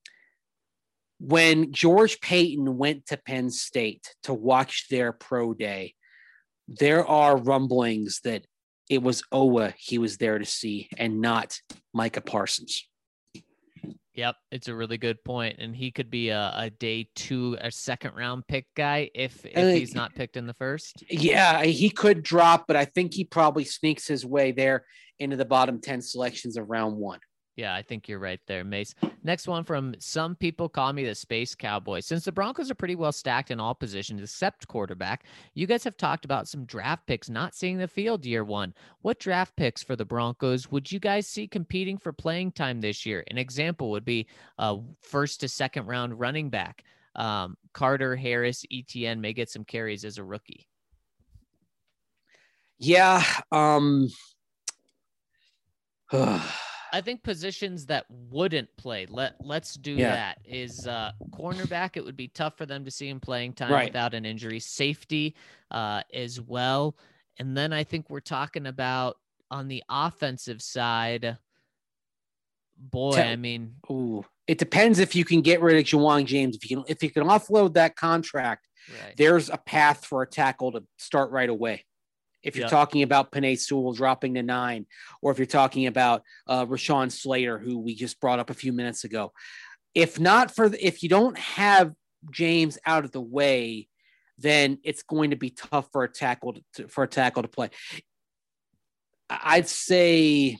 When George Paton went to Penn State to watch their pro day, there are rumblings that it was Owa he was there to see and not Micah Parsons. Yep, it's a really good point. And he could be a, a day two, a second round pick guy if, if uh, he's not picked in the first. Yeah, he could drop, but I think he probably sneaks his way there into the bottom ten selections of round one. Yeah, I think you're right there, Mace. Next one from Some People Call Me the Space Cowboy. Since the Broncos are pretty well stacked in all positions except quarterback, you guys have talked about some draft picks not seeing the field year one. What draft picks for the Broncos would you guys see competing for playing time this year? An example would be a first to second round running back. Um, Carter, Harris, Etienne may get some carries as a rookie. Yeah. Um... I think positions that wouldn't play, let, let's do yeah. that, is uh, cornerback. It would be tough for them to see him playing time right. without an injury. Safety uh, as well. And then I think we're talking about on the offensive side, boy, Tell, I mean. Ooh, it depends if you can get rid of Ja'Wuan James. If you can, if you can offload that contract, right. there's a path for a tackle to start right away. If you're yep. talking about Penei Sewell dropping to nine, or if you're talking about uh, Rashawn Slater, who we just brought up a few minutes ago, if not for the, if you don't have James out of the way, then it's going to be tough for a tackle to, for a tackle to play. I'd say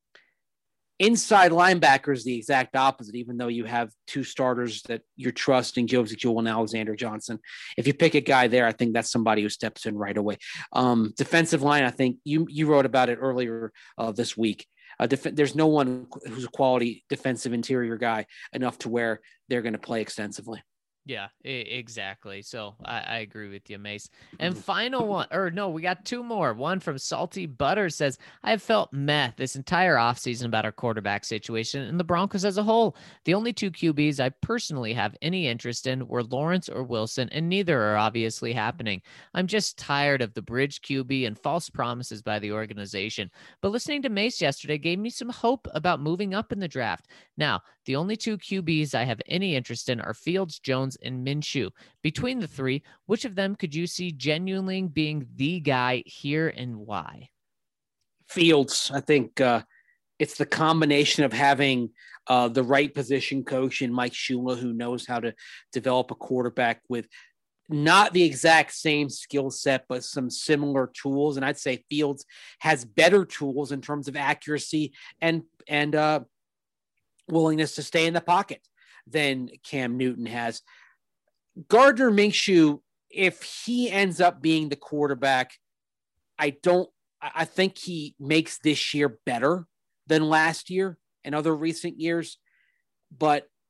inside linebacker is the exact opposite, even though you have two starters that you're trusting, Joseph Jewell and Alexander Johnson. If you pick a guy there, I think that's somebody who steps in right away. Um, defensive line, I think you you wrote about it earlier uh, this week. Uh, def- there's no one who's a quality defensive interior guy enough to where they're going to play extensively. Yeah, exactly. So I, I agree with you, Mace. And final one, or no, we got two more. One from Salty Butter says, I have felt meh this entire offseason about our quarterback situation and the Broncos as a whole. The only two Q Bs I personally have any interest in were Lawrence or Wilson, and neither are obviously happening. I'm just tired of the bridge Q B and false promises by the organization. But listening to Mace yesterday gave me some hope about moving up in the draft. Now, the only two Q Bs I have any interest in are Fields, Jones, and Minshew. Between the three, which of them could you see genuinely being the guy here and why? Fields. I think uh, it's the combination of having uh, the right position coach in Mike Shula, who knows how to develop a quarterback with not the exact same skill set, but some similar tools. And I'd say Fields has better tools in terms of accuracy and, and uh, willingness to stay in the pocket than Cam Newton has. Gardner Minshew, if he ends up being the quarterback, I don't, I think he makes this year better than last year and other recent years. But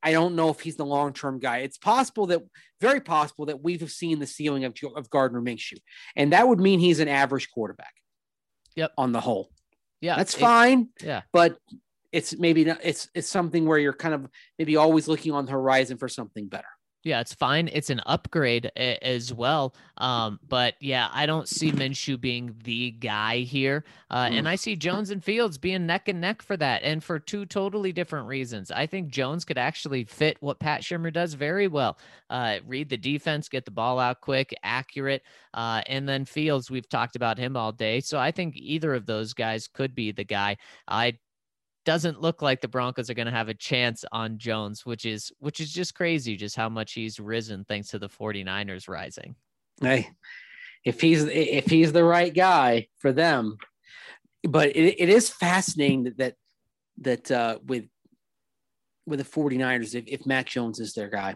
I don't know if he's the long-term guy. It's possible that, very possible that we've seen the ceiling of, of Gardner Minshew. And that would mean he's an average quarterback. Yep. On the whole. Yeah. That's it, fine. Yeah. But it's maybe not, it's, it's something where you're kind of maybe always looking on the horizon for something better. Yeah, it's fine. It's an upgrade a- as well. Um, but yeah, I don't see Minshew being the guy here. Uh, and I see Jones and Fields being neck and neck for that, and for two totally different reasons. I think Jones could actually fit what Pat Shurmur does very well. Uh, read the defense, get the ball out quick, accurate. Uh, and then Fields, we've talked about him all day. So I think either of those guys could be the guy. I doesn't look like the Broncos are going to have a chance on Jones, which is which is just crazy, just how much he's risen thanks to the 49ers rising. Hey, if he's if he's the right guy for them. But it, it is fascinating that that, that uh, with with the 49ers, if, if Mac Jones is their guy.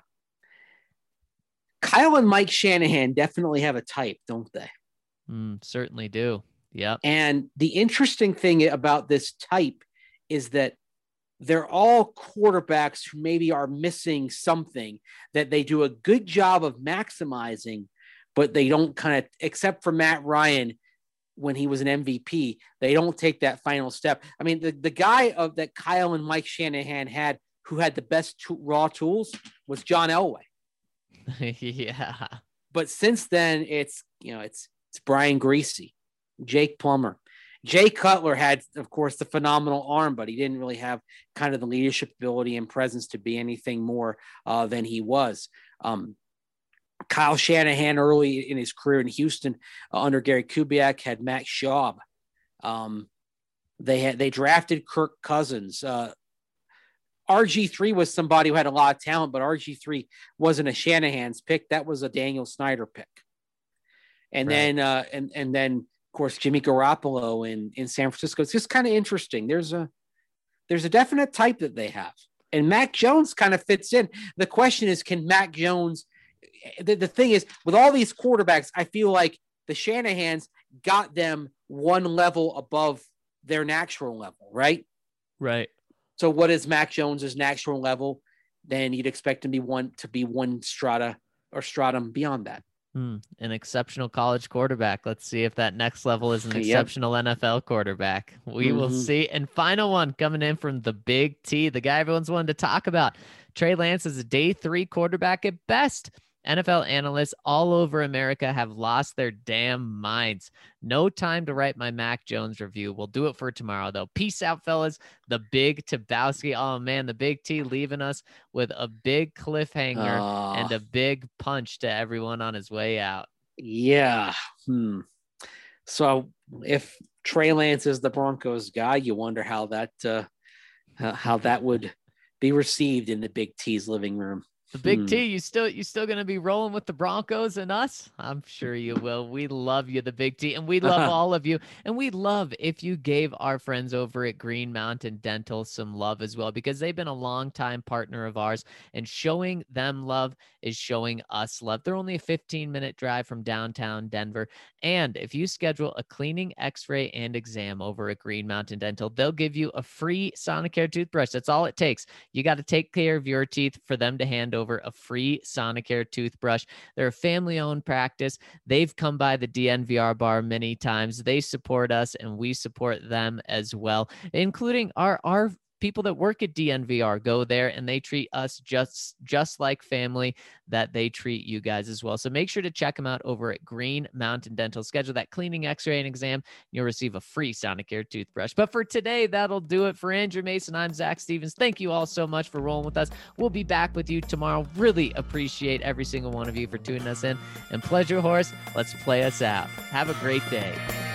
Kyle and Mike Shanahan definitely have a type, don't they? Mm, certainly do. Yeah. And the interesting thing about this type is that they're all quarterbacks who maybe are missing something that they do a good job of maximizing, but they don't kind of, except for Matt Ryan when he was an M V P, they don't take that final step. I mean, the, the guy of that Kyle and Mike Shanahan had who had the best to, raw tools was John Elway. Yeah. But since then, it's, you know, it's, it's Brian Griese, Jake Plummer. Jay Cutler had, of course, the phenomenal arm, but he didn't really have kind of the leadership ability and presence to be anything more uh, than he was. Um, Kyle Shanahan, early in his career in Houston uh, under Gary Kubiak, had Matt Schaub. Um, they had they drafted Kirk Cousins. Uh, R G three was somebody who had a lot of talent, but R G three wasn't a Shanahan's pick. That was a Daniel Snyder pick. And right. then uh, and and then. Of course, Jimmy Garoppolo in, in San Francisco. It's just kind of interesting. There's a there's a definite type that they have. And Mac Jones kind of fits in. The question is, can Mac Jones the, the thing is, with all these quarterbacks, I feel like the Shanahans got them one level above their natural level, right? Right. So what is Mac Jones's natural level? Then you'd expect him to be one to be one strata or stratum beyond that. Hmm, an exceptional college quarterback. Let's see if that next level is an exceptional yep. N F L quarterback. We mm-hmm. will see. And final one coming in from the Big T, the guy everyone's wanted to talk about. Trey Lance is a day three quarterback at best. N F L analysts all over America have lost their damn minds. No time to write my Mac Jones review. We'll do it for tomorrow, though. Peace out, fellas. The Big Tabowski. Oh, man, the Big T leaving us with a big cliffhanger oh. and a big punch to everyone on his way out. Yeah. Hmm. So if Trey Lance is the Broncos guy, you wonder how that uh, how that would be received in the Big T's living room. The Big hmm. T, you still you still gonna be rolling with the Broncos and us? I'm sure you will. We love you, the Big T, and we love uh-huh. all of you. And we'd love if you gave our friends over at Green Mountain Dental some love as well, because they've been a longtime partner of ours, and showing them love is showing us love. They're only a fifteen minute drive from downtown Denver. And if you schedule a cleaning, x-ray, and exam over at Green Mountain Dental, they'll give you a free Sonicare toothbrush. That's all it takes. You got to take care of your teeth for them to hand over a free Sonicare toothbrush. They're a family-owned practice. They've come by the D N V R bar many times. They support us, and we support them as well, including our our people that work at D N V R go there, and they treat us just just like family that they treat you guys as well. So make sure to check them out over at Green Mountain Dental. Schedule that cleaning, x-ray, and exam. You'll receive a free Sonicare toothbrush. But for today, that'll do it. For Andrew Mason, I'm Zach Stevens. Thank you all so much for rolling with us. We'll be back with you tomorrow. Really appreciate every single one of you for tuning us in. And Pleasure Horse, let's play us out. Have a great day.